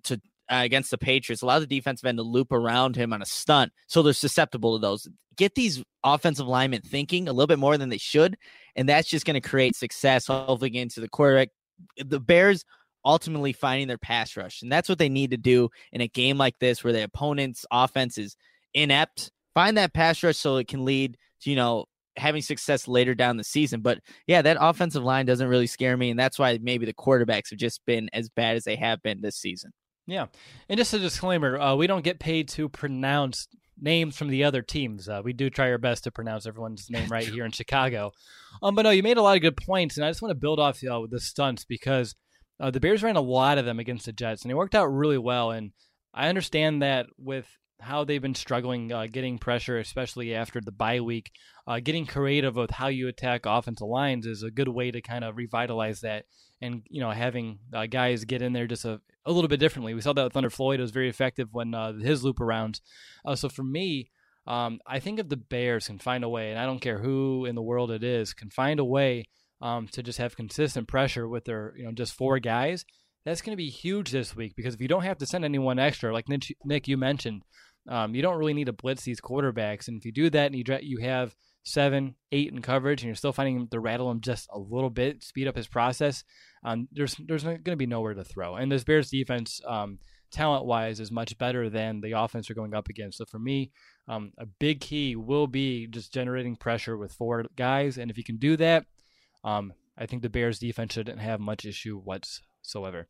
uh, against the Patriots, allow the defensive end to loop around him on a stunt, so they're susceptible to those. Get these offensive linemen thinking a little bit more than they should, and that's just going to create success, hopefully into the quarterback. The Bears ultimately finding their pass rush, and that's what they need to do in a game like this where the opponent's offense is inept. Find that pass rush so it can lead to, you know, having success later down the season. But yeah, that offensive line doesn't really scare me, and that's why maybe the quarterbacks have just been as bad as they have been this season. Yeah, and just a disclaimer, uh, we don't get paid to pronounce names from the other teams. Uh, we do try our best to pronounce everyone's name right here in Chicago. Um, but no, you made a lot of good points, and I just want to build off uh, the stunts because uh, the Bears ran a lot of them against the Jets, and they worked out really well. And I understand that with how they've been struggling uh, getting pressure, especially after the bye week, uh, getting creative with how you attack offensive lines is a good way to kind of revitalize that. And, you know, having uh, guys get in there just a, a little bit differently. We saw that with Thunder Floyd. It was very effective when uh, his loop arounds. Uh, so for me, um, I think if the Bears can find a way, and I don't care who in the world it is, can find a way um, to just have consistent pressure with their, you know, just four guys, that's going to be huge this week. Because if you don't have to send anyone extra, like Nick, Nick you mentioned, um, you don't really need to blitz these quarterbacks. And if you do that and you you have seven, eight in coverage, and you're still finding him to rattle him just a little bit, speed up his process, um, there's there's going to be nowhere to throw. And this Bears defense, um, talent-wise, is much better than the offense they're going up against. So for me, um, a big key will be just generating pressure with four guys. And if you can do that, um, I think the Bears defense shouldn't have much issue whatsoever.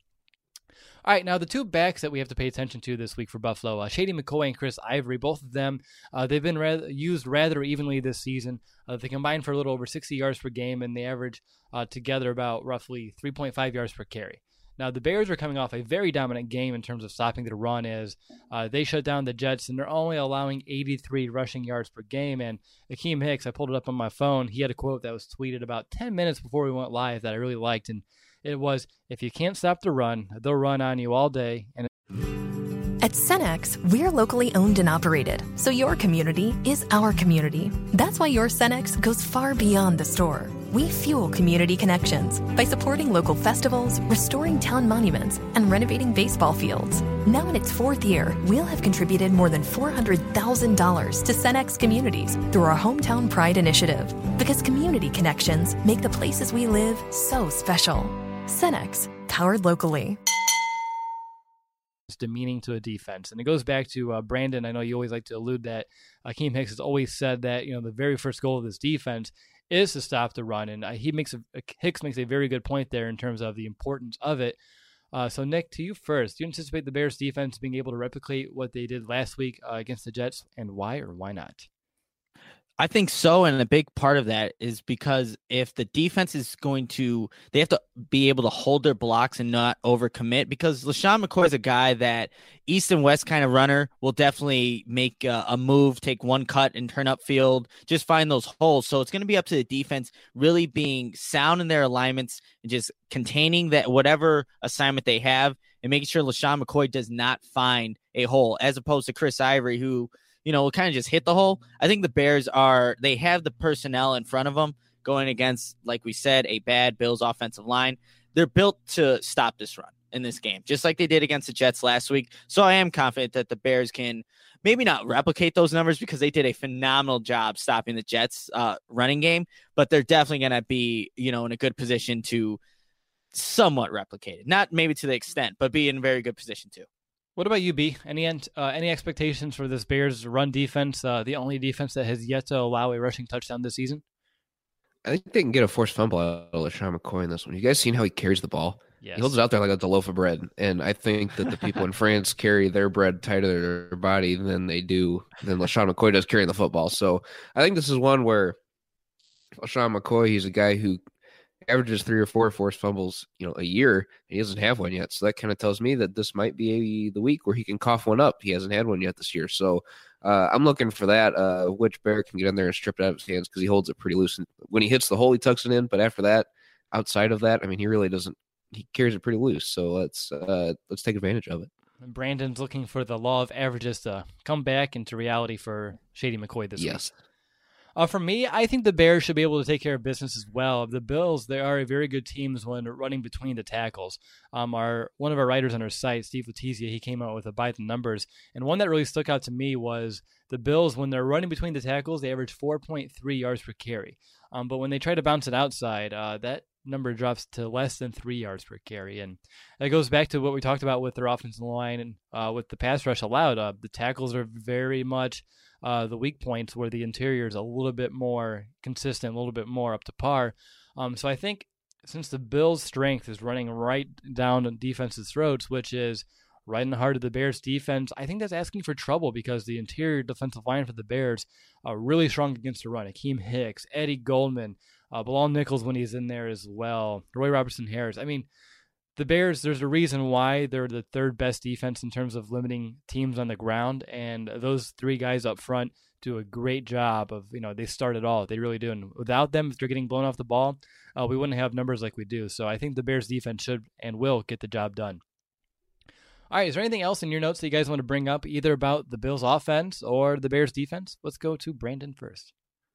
All right, now the two backs that we have to pay attention to this week for Buffalo, uh, Shady McCoy and Chris Ivory, both of them, uh, they've been ra- used rather evenly this season. Uh, they combine for a little over sixty yards per game, and they average uh, together about roughly three point five yards per carry. Now, the Bears are coming off a very dominant game in terms of stopping the run as uh, they shut down the Jets, and they're only allowing eighty-three rushing yards per game. And Akeem Hicks, I pulled it up on my phone, he had a quote that was tweeted about ten minutes before we went live that I really liked, and it was, if you can't stop the run, they'll run on you all day. And at Cenex, we're locally owned and operated, so your community is our community. That's why your Cenex goes far beyond the store. We fuel community connections by supporting local festivals, restoring town monuments, and renovating baseball fields. Now in its fourth year, we'll have contributed more than four hundred thousand dollars to Cenex communities through our Hometown Pride initiative. Because community connections make the places we live so special. Cenex, powered locally. It's demeaning to a defense. And it goes back to uh, Brandon. I know you always like to allude that Akeem Hicks has always said that, you know, the very first goal of this defense is to stop the run. And uh, he makes a, Hicks makes a very good point there in terms of the importance of it. Uh, so, Nick, to you first. Do you anticipate the Bears defense being able to replicate what they did last week uh, against the Jets, and why or why not? I think so, and a big part of that is because if the defense is going to, they have to be able to hold their blocks and not overcommit, because LeSean McCoy is a guy that east and west kind of runner will definitely make a, a move, take one cut and turn upfield, just find those holes. So it's going to be up to the defense really being sound in their alignments and just containing that whatever assignment they have and making sure LeSean McCoy does not find a hole, as opposed to Chris Ivory, who, you know, will kind of just hit the hole. I think the Bears are, they have the personnel in front of them going against, like we said, a bad Bills offensive line. They're built to stop this run in this game, just like they did against the Jets last week. So I am confident that the Bears can maybe not replicate those numbers, because they did a phenomenal job stopping the Jets uh, running game, but they're definitely going to be, you know, in a good position to somewhat replicate it. Not maybe to the extent, but be in a very good position too. What about you, B? Any uh, any expectations for this Bears run defense, uh, the only defense that has yet to allow a rushing touchdown this season? I think they can get a forced fumble out of LeSean McCoy in this one. You guys seen how he carries the ball? Yes. He holds it out there like it's a loaf of bread. And I think that the people in France carry their bread tighter to their body than they do, than LeSean McCoy does carrying the football. So I think this is one where LeSean McCoy, he's a guy who averages three or four forced fumbles, you know, a year, and he doesn't have one yet. So that kind of tells me that this might be a, the week where he can cough one up. He hasn't had one yet this year. So uh, I'm looking for that, uh, which Bear can get in there and strip it out of his hands, because he holds it pretty loose. And when he hits the hole, he tucks it in. But after that, outside of that, I mean, he really doesn't, he carries it pretty loose. So let's, uh, let's take advantage of it. Brandon's looking for the law of averages to come back into reality for Shady McCoy this yes. week. Uh, for me, I think the Bears should be able to take care of business as well. The Bills, they are a very good team when running between the tackles. Um, our one of our writers on our site, Steve Letizia, he came out with a by the numbers, and one that really stuck out to me was the Bills, when they're running between the tackles, they average four point three yards per carry. Um, but when they try to bounce it outside, uh, that number drops to less than three yards per carry. And that goes back to what we talked about with their offensive line and uh, with the pass rush allowed. Uh, the tackles are very much uh, the weak points, where the interior is a little bit more consistent, a little bit more up to par. Um, so I think since the Bills' strength is running right down the defense's throats, which is right in the heart of the Bears' defense, I think that's asking for trouble, because the interior defensive line for the Bears are really strong against the run. Akeem Hicks, Eddie Goldman, uh, Bilal Nichols when he's in there as well, Roy Robertson Harris. I mean, the Bears, there's a reason why they're the third best defense in terms of limiting teams on the ground, and those three guys up front do a great job of, you know, they start it all. They really do. And without them, if they're getting blown off the ball, uh, we wouldn't have numbers like we do. So I think the Bears defense should and will get the job done. All right, is there anything else in your notes that you guys want to bring up, either about the Bills offense or the Bears defense? Let's go to Brandon first.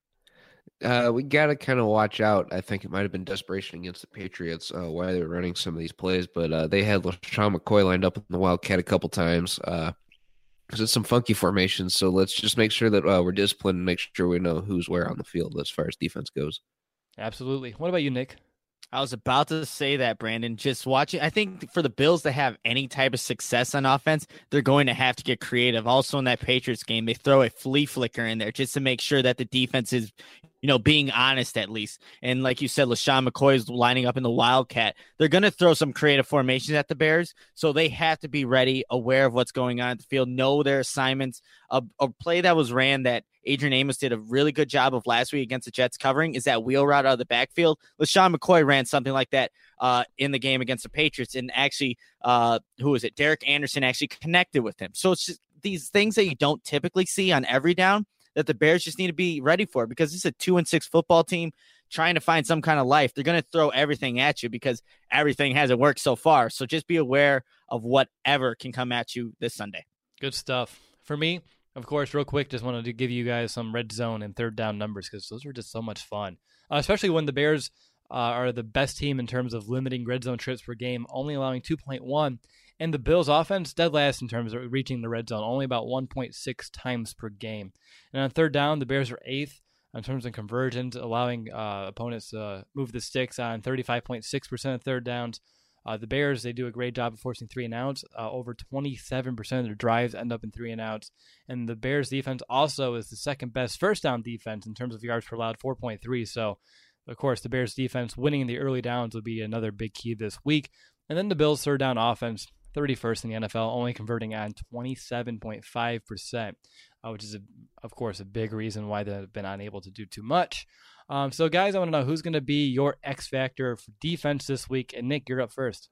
Uh, we got to kind of watch out. I think it might have been desperation against the Patriots uh, why they were running some of these plays, but uh, they had LaShawn McCoy lined up in the Wildcat a couple times. Uh, it's some funky formations, so let's just make sure that uh, we're disciplined and make sure we know who's where on the field as far as defense goes. Absolutely. What about you, Nick? I was about to say that, Brandon. Just watching, I think for the Bills to have any type of success on offense, they're going to have to get creative. Also in that Patriots game, they throw a flea flicker in there just to make sure that the defense is, you know, being honest at least. And like you said, LaShawn McCoy is lining up in the Wildcat. They're going to throw some creative formations at the Bears, so they have to be ready, aware of what's going on at the field, know their assignments. A, a play that was ran that Adrian Amos did a really good job of last week against the Jets covering is that wheel route out of the backfield. LaShawn McCoy ran something like that uh, in the game against the Patriots, and actually, uh, who was it? Derek Anderson actually connected with him. So it's just these things that you don't typically see on every down that the Bears just need to be ready for, because it's a two and six football team trying to find some kind of life. They're going to throw everything at you because everything hasn't worked so far. So just be aware of whatever can come at you this Sunday. Good stuff. For me, of course, real quick, just wanted to give you guys some red zone and third down numbers, because those were just so much fun, uh, especially when the Bears uh, are the best team in terms of limiting red zone trips per game, only allowing two point one. And the Bills' offense, dead last in terms of reaching the red zone, only about one point six times per game. And on third down, the Bears are eighth in terms of conversions, allowing uh, opponents to uh, move the sticks on thirty-five point six percent of third downs. Uh, the Bears, they do a great job of forcing three and outs. Uh, over twenty-seven percent of their drives end up in three and outs. And the Bears' defense also is the second best first down defense in terms of yards per allowed, four point three. So, of course, the Bears' defense winning the early downs would be another big key this week. And then the Bills' third down offense, thirty-first in the N F L, only converting on twenty-seven point five percent, uh, which is, a, of course, a big reason why they've been unable to do too much. Um, so, guys, I want to know who's going to be your X factor for defense this week. And, Nick, you're up first.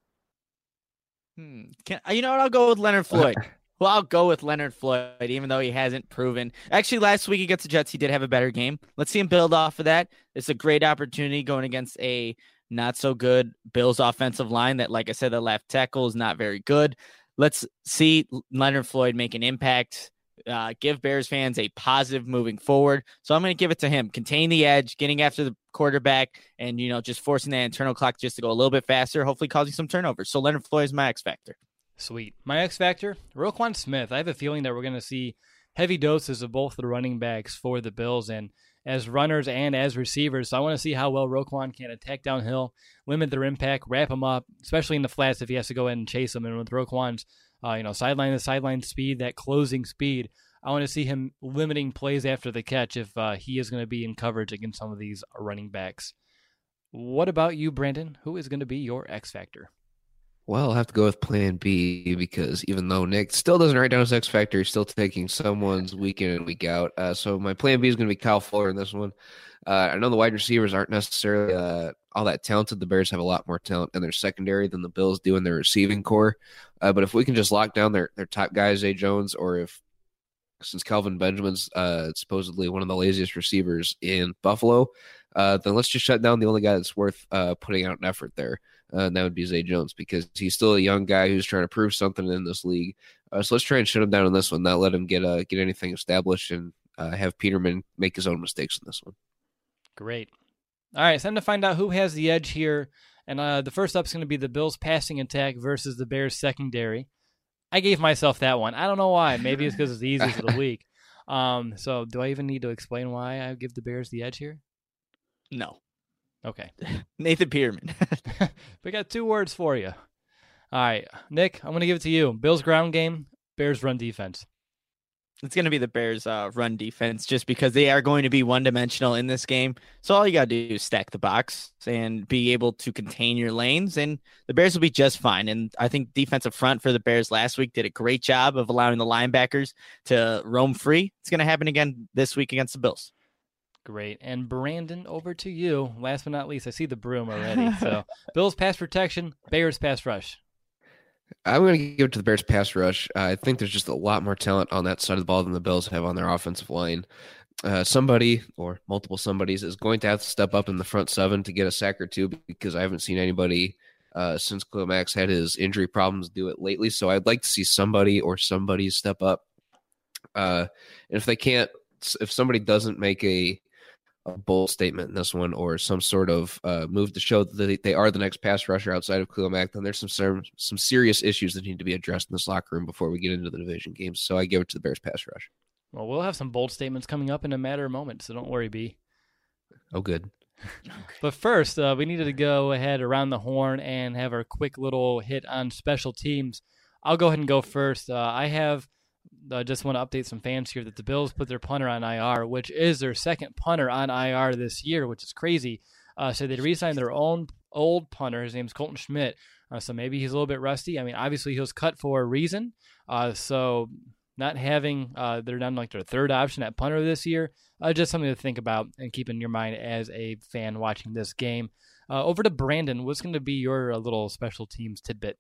Hmm. Can, you know what? I'll go with Leonard Floyd. Well, I'll go with Leonard Floyd, even though he hasn't proven. Actually, last week against the Jets, he did have a better game. Let's see him build off of that. It's a great opportunity going against a not so good Bills offensive line that, like I said, the left tackle is not very good. Let's see Leonard Floyd make an impact, uh, give Bears fans a positive moving forward. So I'm going to give it to him. Contain the edge, getting after the quarterback, and, you know, just forcing that internal clock just to go a little bit faster, hopefully causing some turnovers. So Leonard Floyd is my X factor. Sweet. My X factor, Roquan Smith. I have a feeling that we're going to see heavy doses of both the running backs for the Bills, and as runners and as receivers. So I want to see how well Roquan can attack downhill, limit their impact, wrap him up, especially in the flats if he has to go in and chase them. And with Roquan's, uh, you know, sideline to sideline speed, that closing speed, I want to see him limiting plays after the catch if uh, he is going to be in coverage against some of these running backs. What about you, Brandon? Who is going to be your X factor? Well, I'll have to go with plan B, because even though Nick still doesn't write down his X factor, he's still taking someone's week in and week out. Uh, so my plan B is going to be Kyle Fuller in this one. Uh, I know the wide receivers aren't necessarily uh, all that talented. The Bears have a lot more talent in their secondary than the Bills do in their receiving core. Uh, but if we can just lock down their, their top guy, Zay Jones, or if, since Calvin Benjamin's uh, supposedly one of the laziest receivers in Buffalo, uh, then let's just shut down the only guy that's worth uh, putting out an effort there. Uh, and that would be Zay Jones, because he's still a young guy who's trying to prove something in this league. Uh, so let's try and shut him down in this one, not let him get uh, get anything established, and uh, have Peterman make his own mistakes in this one. Great. All right, it's time to find out who has the edge here. And uh, the first up is going to be the Bills' passing attack versus the Bears' secondary. I gave myself that one. I don't know why. Maybe it's because it's the easiest of the week. Um, so do I even need to explain why I give the Bears the edge here? No. Okay. Nathan Peterman. We got two words for you. All right, Nick, I'm going to give it to you. Bills ground game, Bears run defense. It's going to be the Bears' uh, run defense just because they are going to be one-dimensional in this game. So all you got to do is stack the box and be able to contain your lanes, and the Bears will be just fine. And I think defensive front for the Bears last week did a great job of allowing the linebackers to roam free. It's going to happen again this week against the Bills. Great. And Brandon, over to you. Last but not least, I see the broom already. So Bills pass protection, Bears pass rush. I'm going to give it to the Bears pass rush. Uh, I think there's just a lot more talent on that side of the ball than the Bills have on their offensive line. Uh, somebody or multiple somebodies is going to have to step up in the front seven to get a sack or two because I haven't seen anybody uh, since Khalil Mack's had his injury problems do it lately. So I'd like to see somebody or somebody step up. Uh, and if they can't, if somebody doesn't make a a bold statement in this one or some sort of uh, move to show that they are the next pass rusher outside of Khalil Mack, then there's some some serious issues that need to be addressed in this locker room before we get into the division games. So I give it to the Bears pass rush. Well, we'll have some bold statements coming up in a matter of moments, so don't worry, B. Oh, good. But first, uh, we needed to go ahead around the horn and have our quick little hit on special teams. I'll go ahead and go first. Uh, I have I uh, just want to update some fans here that the Bills put their punter on I R, which is their second punter on I R this year, which is crazy. Uh, so they re-signed their own old punter. His name's Colton Schmidt. Uh, so maybe he's a little bit rusty. I mean, obviously he was cut for a reason. Uh, so not having, uh, they're down like their third option at punter this year, uh, just something to think about and keep in your mind as a fan watching this game. Uh, over to Brandon. What's going to be your uh, little special teams tidbit?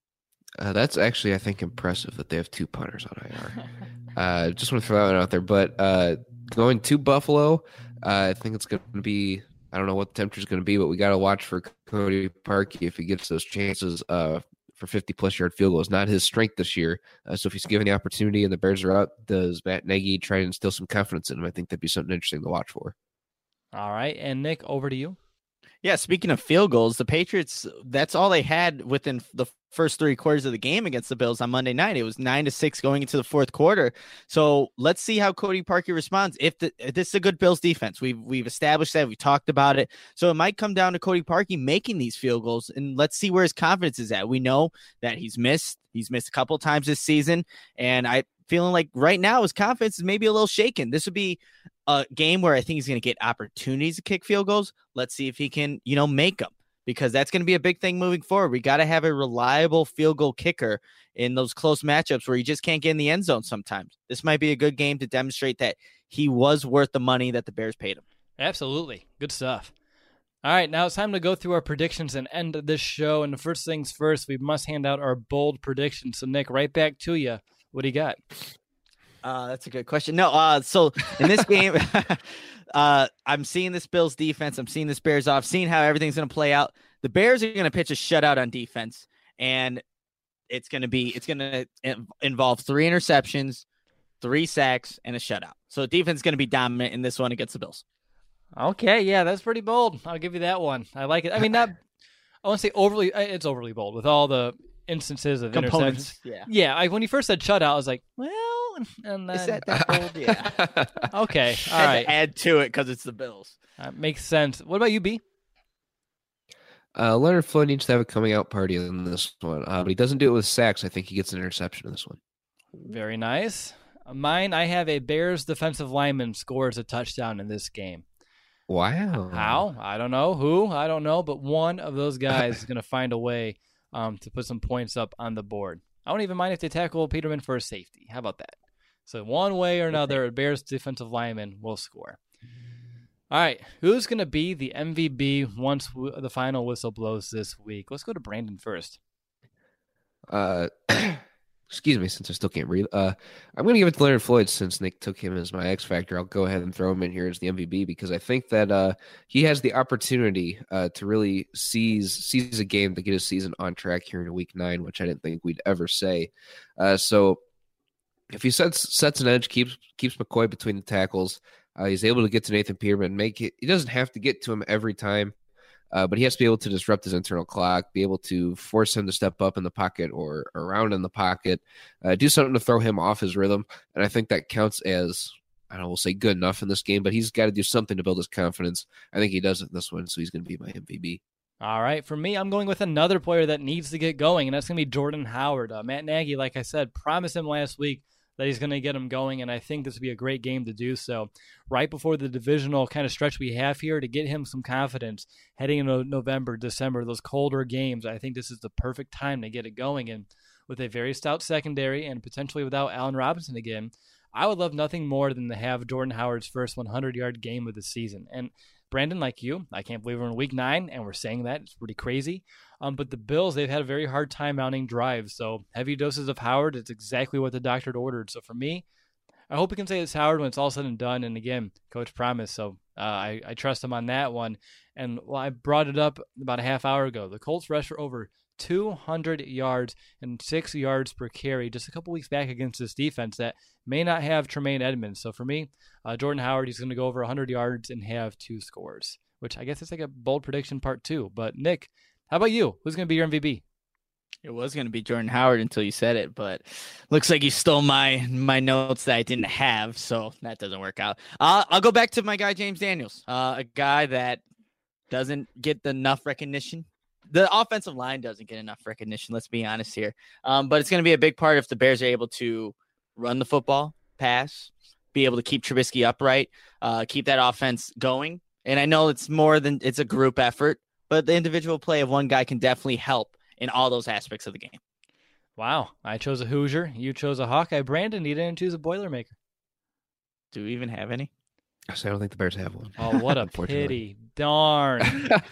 Uh, that's actually, I think, impressive that they have two punters on I R. uh, just want to throw that one out there. But uh, going to Buffalo, uh, I think it's going to be, I don't know what the temperature is going to be, but we got to watch for Cody Parkey if he gets those chances uh, for fifty-plus yard field goals. Not his strength this year. Uh, so if he's given the opportunity and the Bears are out, does Matt Nagy try and instill some confidence in him? I think that'd be something interesting to watch for. All right. And Nick, over to you. Yeah, speaking of field goals, the Patriots, that's all they had within the first three quarters of the game against the Bills on Monday night. It was nine to six going into the fourth quarter. So let's see how Cody Parkey responds. If, the, if this is a good Bills defense, we've, we've established that. We talked about it. So it might come down to Cody Parkey making these field goals, and let's see where his confidence is at. We know that he's missed. He's missed a couple of times this season, and I feeling like right now his confidence is maybe a little shaken. This would be a game where I think he's going to get opportunities to kick field goals. Let's see if he can, you know, make them, because that's going to be a big thing moving forward. We got to have a reliable field goal kicker in those close matchups where you just can't get in the end zone sometimes. This might be a good game to demonstrate that he was worth the money that the Bears paid him. Absolutely. Good stuff. All right, now it's time to go through our predictions and end this show. And the first things first, we must hand out our bold predictions. So, Nick, right back to you. What do you got? Uh, that's a good question. No, uh, so in this game, uh, I'm seeing this Bills defense. I'm seeing this Bears off, seeing how everything's going to play out. The Bears are going to pitch a shutout on defense, and it's going to be it's going to involve three interceptions, three sacks, and a shutout. So defense is going to be dominant in this one against the Bills. Okay, yeah, that's pretty bold. I'll give you that one. I like it. I mean, not I won't say overly. It's overly bold with all the instances of Components, interceptions. yeah, yeah. I, when you first said shutout, I was like, well, and then is that that bold? Yeah. Okay, all Had right. to add to it because it's the Bills. That makes sense. What about you, B? Uh, Leonard Floyd needs to have a coming out party in this one, uh, but he doesn't do it with sacks. I think he gets an interception in this one. Very nice. Mine, I have a Bears defensive lineman scores a touchdown in this game. Wow. How? I don't know. Who? I don't know. But one of those guys is going to find a way um, to put some points up on the board. I don't even mind if they tackle Peterman for a safety. How about that? So one way or another, a Bears defensive lineman will score. All right. Who's going to be the M V P once w- the final whistle blows this week? Let's go to Brandon first. Uh, excuse me, since I still can't breathe. Uh, I'm going to give it to Leonard Floyd since Nick took him as my X factor. I'll go ahead and throw him in here as the M V P because I think that uh, he has the opportunity uh, to really seize seize a game to get his season on track here in week nine, which I didn't think we'd ever say. Uh, so if he sets sets an edge, keeps keeps McCoy between the tackles, uh, he's able to get to Nathan Peterman. Make it. He doesn't have to get to him every time, uh, but he has to be able to disrupt his internal clock, be able to force him to step up in the pocket or around in the pocket, uh, do something to throw him off his rhythm. And I think that counts as, I don't know, we'll say good enough in this game, but he's got to do something to build his confidence. I think he does it in this one, so he's going to be my M V B. All right, for me, I'm going with another player that needs to get going, and that's going to be Jordan Howard. Uh, Matt Nagy, like I said, promised him last week that he's going to get him going, and I think this would be a great game to do so. Right before the divisional kind of stretch we have here, to get him some confidence heading into November, December, those colder games, I think this is the perfect time to get it going. And with a very stout secondary and potentially without Allen Robinson again, I would love nothing more than to have Jordan Howard's first hundred-yard game of the season. And Brandon, like you, I can't believe we're in week nine, and we're saying that. It's pretty crazy. Um, but the Bills, they've had a very hard time mounting drives. So heavy doses of Howard, it's exactly what the doctor ordered. So for me, I hope we can say it's Howard when it's all said and done. And again, Coach promised, so uh, I, I trust him on that one. And well, I brought it up about a half hour ago. The Colts rushed for over two hundred yards and six yards per carry just a couple weeks back against this defense that may not have Tremaine Edmonds. So for me, uh, Jordan Howard, he's going to go over one hundred yards and have two scores, which I guess it's like a bold prediction part two. But Nick, how about you? Who's going to be your M V B? It was going to be Jordan Howard until you said it, but looks like you stole my my notes that I didn't have, so that doesn't work out. Uh, I'll go back to my guy, James Daniels, uh, a guy that doesn't get enough recognition. The offensive line doesn't get enough recognition, let's be honest here. Um, but it's going to be a big part if the Bears are able to run the football, pass, be able to keep Trubisky upright, uh, keep that offense going. And I know it's more than it's a group effort, but the individual play of one guy can definitely help in all those aspects of the game. Wow. I chose a Hoosier. You chose a Hawkeye. Brandon, you didn't choose a Boilermaker. Do we even have any? I don't think the Bears have one. Oh, what a pity. Darn.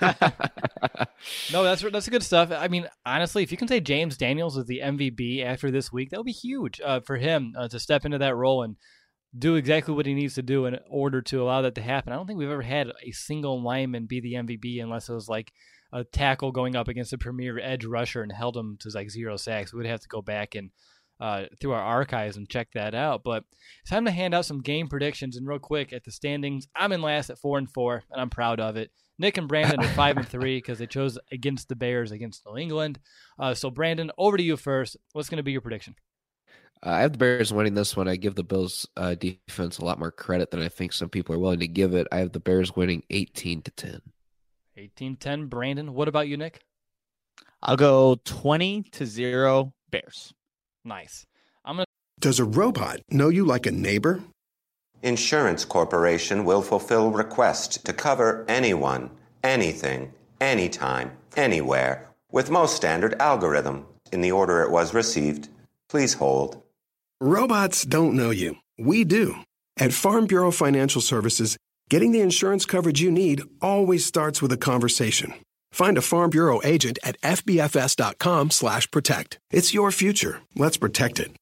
No, that's that's good stuff. I mean, honestly, if you can say James Daniels is the M V B after this week, that would be huge uh, for him uh, to step into that role and do exactly what he needs to do in order to allow that to happen. I don't think we've ever had a single lineman be the M V B unless it was like a tackle going up against a premier edge rusher and held him to like zero sacks. We would have to go back and uh, through our archives and check that out. But it's time to hand out some game predictions. And real quick, at the standings, I'm in last at four and four, and I'm proud of it. Nick and Brandon are five and three because they chose against the Bears against New England. Uh, so Brandon, over to you first. What's going to be your prediction? Uh, I have the Bears winning this one. I give the Bills uh, defense a lot more credit than I think some people are willing to give it. I have the Bears winning eighteen to ten. eighteen ten, Brandon. What about you, Nick? I'll go twenty to zero Bears. Nice. I'm gonna. Does a robot know you like a neighbor? Insurance Corporation will fulfill requests to cover anyone, anything, anytime, anywhere, with most standard algorithm in the order it was received. Please hold. Robots don't know you. We do. At Farm Bureau Financial Services, getting the insurance coverage you need always starts with a conversation. Find a Farm Bureau agent at fbfs.com slash protect. It's your future. Let's protect it.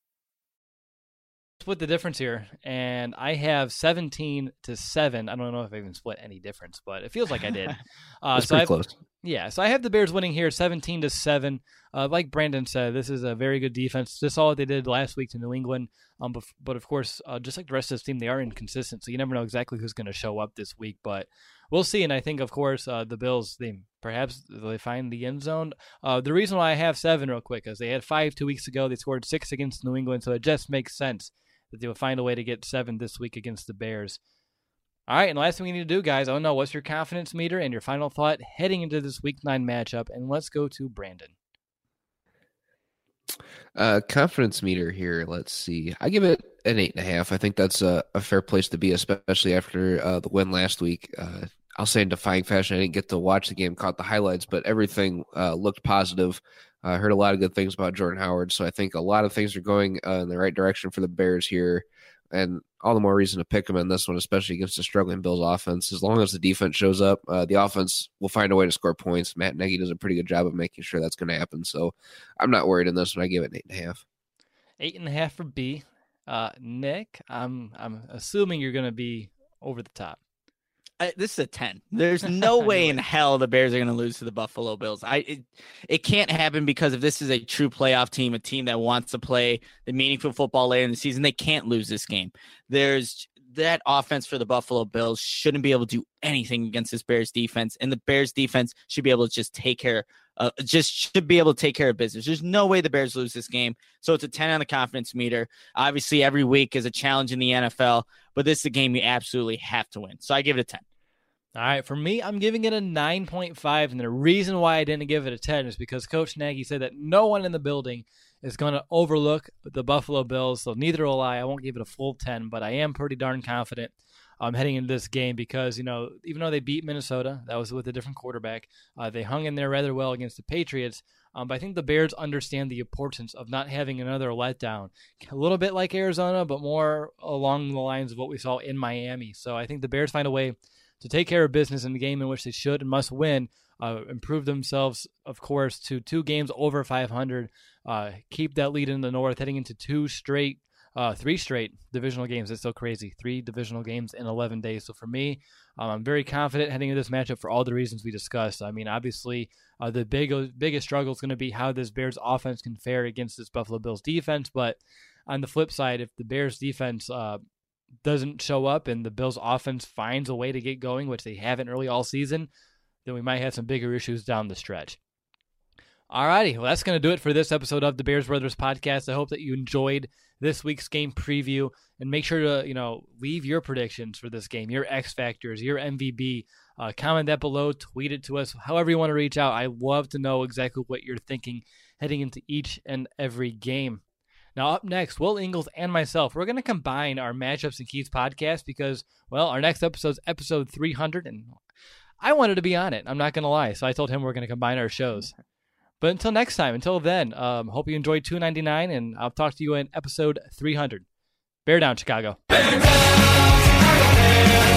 Split the difference here, and I have seventeen to seven. I don't know if I even split any difference, but it feels like I did. Uh, That's so pretty I've, close. Yeah, so I have the Bears winning here, seventeen to seven. Uh, like Brandon said, this is a very good defense. Just saw what they did last week to New England. Um, but, but of course, uh, just like the rest of this team, they are inconsistent, so you never know exactly who's going to show up this week. But we'll see. And I think, of course, uh, the Bills, they perhaps they find the end zone. Uh, the reason why I have seven, real quick, is they had five two weeks ago. They scored six against New England, so it just makes sense that they will find a way to get seven this week against the Bears. All right, and last thing we need to do, guys, I don't know, what's your confidence meter and your final thought heading into this week nine matchup? And let's go to Brandon. Uh, confidence meter here, let's see. I give it an eight and a half. I think that's a, a fair place to be, especially after uh, the win last week. Uh, I'll say in defying fashion, I didn't get to watch the game, caught the highlights, but everything uh, looked positive. I uh, heard a lot of good things about Jordan Howard, so I think a lot of things are going uh, in the right direction for the Bears here, and all the more reason to pick them in this one, especially against a struggling Bills offense. As long as the defense shows up, uh, the offense will find a way to score points. Matt Nagy does a pretty good job of making sure that's going to happen, so I'm not worried in this one. I give it an eight and a half. Eight and a half for B. Uh, Nick, I'm I'm assuming you're going to be over the top. I, this is a ten. There's no way in hell the Bears are going to lose to the Buffalo Bills. I it, it can't happen because if this is a true playoff team, a team that wants to play the meaningful football later in the season, they can't lose this game. There's that offense for the Buffalo Bills shouldn't be able to do anything against this Bears defense, and the Bears defense should be able to just take care, uh, just should be able to take care of business. There's no way the Bears lose this game, so it's a ten on the confidence meter. Obviously, every week is a challenge in the N F L, but this is a game you absolutely have to win. So I give it a ten. All right, for me, I'm giving it a nine point five, and the reason why I didn't give it a ten is because Coach Nagy said that no one in the building is going to overlook the Buffalo Bills, so neither will I. I won't give it a full ten, but I am pretty darn confident um, heading into this game because, you know, even though they beat Minnesota, that was with a different quarterback, uh, they hung in there rather well against the Patriots, um, but I think the Bears understand the importance of not having another letdown. A little bit like Arizona, but more along the lines of what we saw in Miami. So I think the Bears find a way to take care of business in the game in which they should and must win, uh, improve themselves, of course, to two games over five hundred, uh, keep that lead in the North, heading into two straight, uh, three straight divisional games. It's so crazy. Three divisional games in eleven days. So for me, um, I'm very confident heading into this matchup for all the reasons we discussed. I mean, obviously, uh, the big biggest struggle is going to be how this Bears offense can fare against this Buffalo Bills defense. But on the flip side, if the Bears defense uh, doesn't show up and the Bills offense finds a way to get going, which they haven't really all season, then we might have some bigger issues down the stretch. Alrighty, well, that's going to do it for this episode of the Bears Brothers Podcast. I hope that you enjoyed this week's game preview, and make sure to, you know, leave your predictions for this game, your X Factors, your M V B. Uh, comment that below, tweet it to us, however you want to reach out. I love to know exactly what you're thinking heading into each and every game. Now, up next, Will Ingles and myself, we're going to combine our Matchups and Keys podcast because, well, our next episode's episode three hundred, and I wanted to be on it. I'm not going to lie. So I told him we're going to combine our shows. But until next time, until then, um, hope you enjoyed two ninety-nine, and I'll talk to you in episode three hundred. Bear down, Chicago. Bear down, Chicago.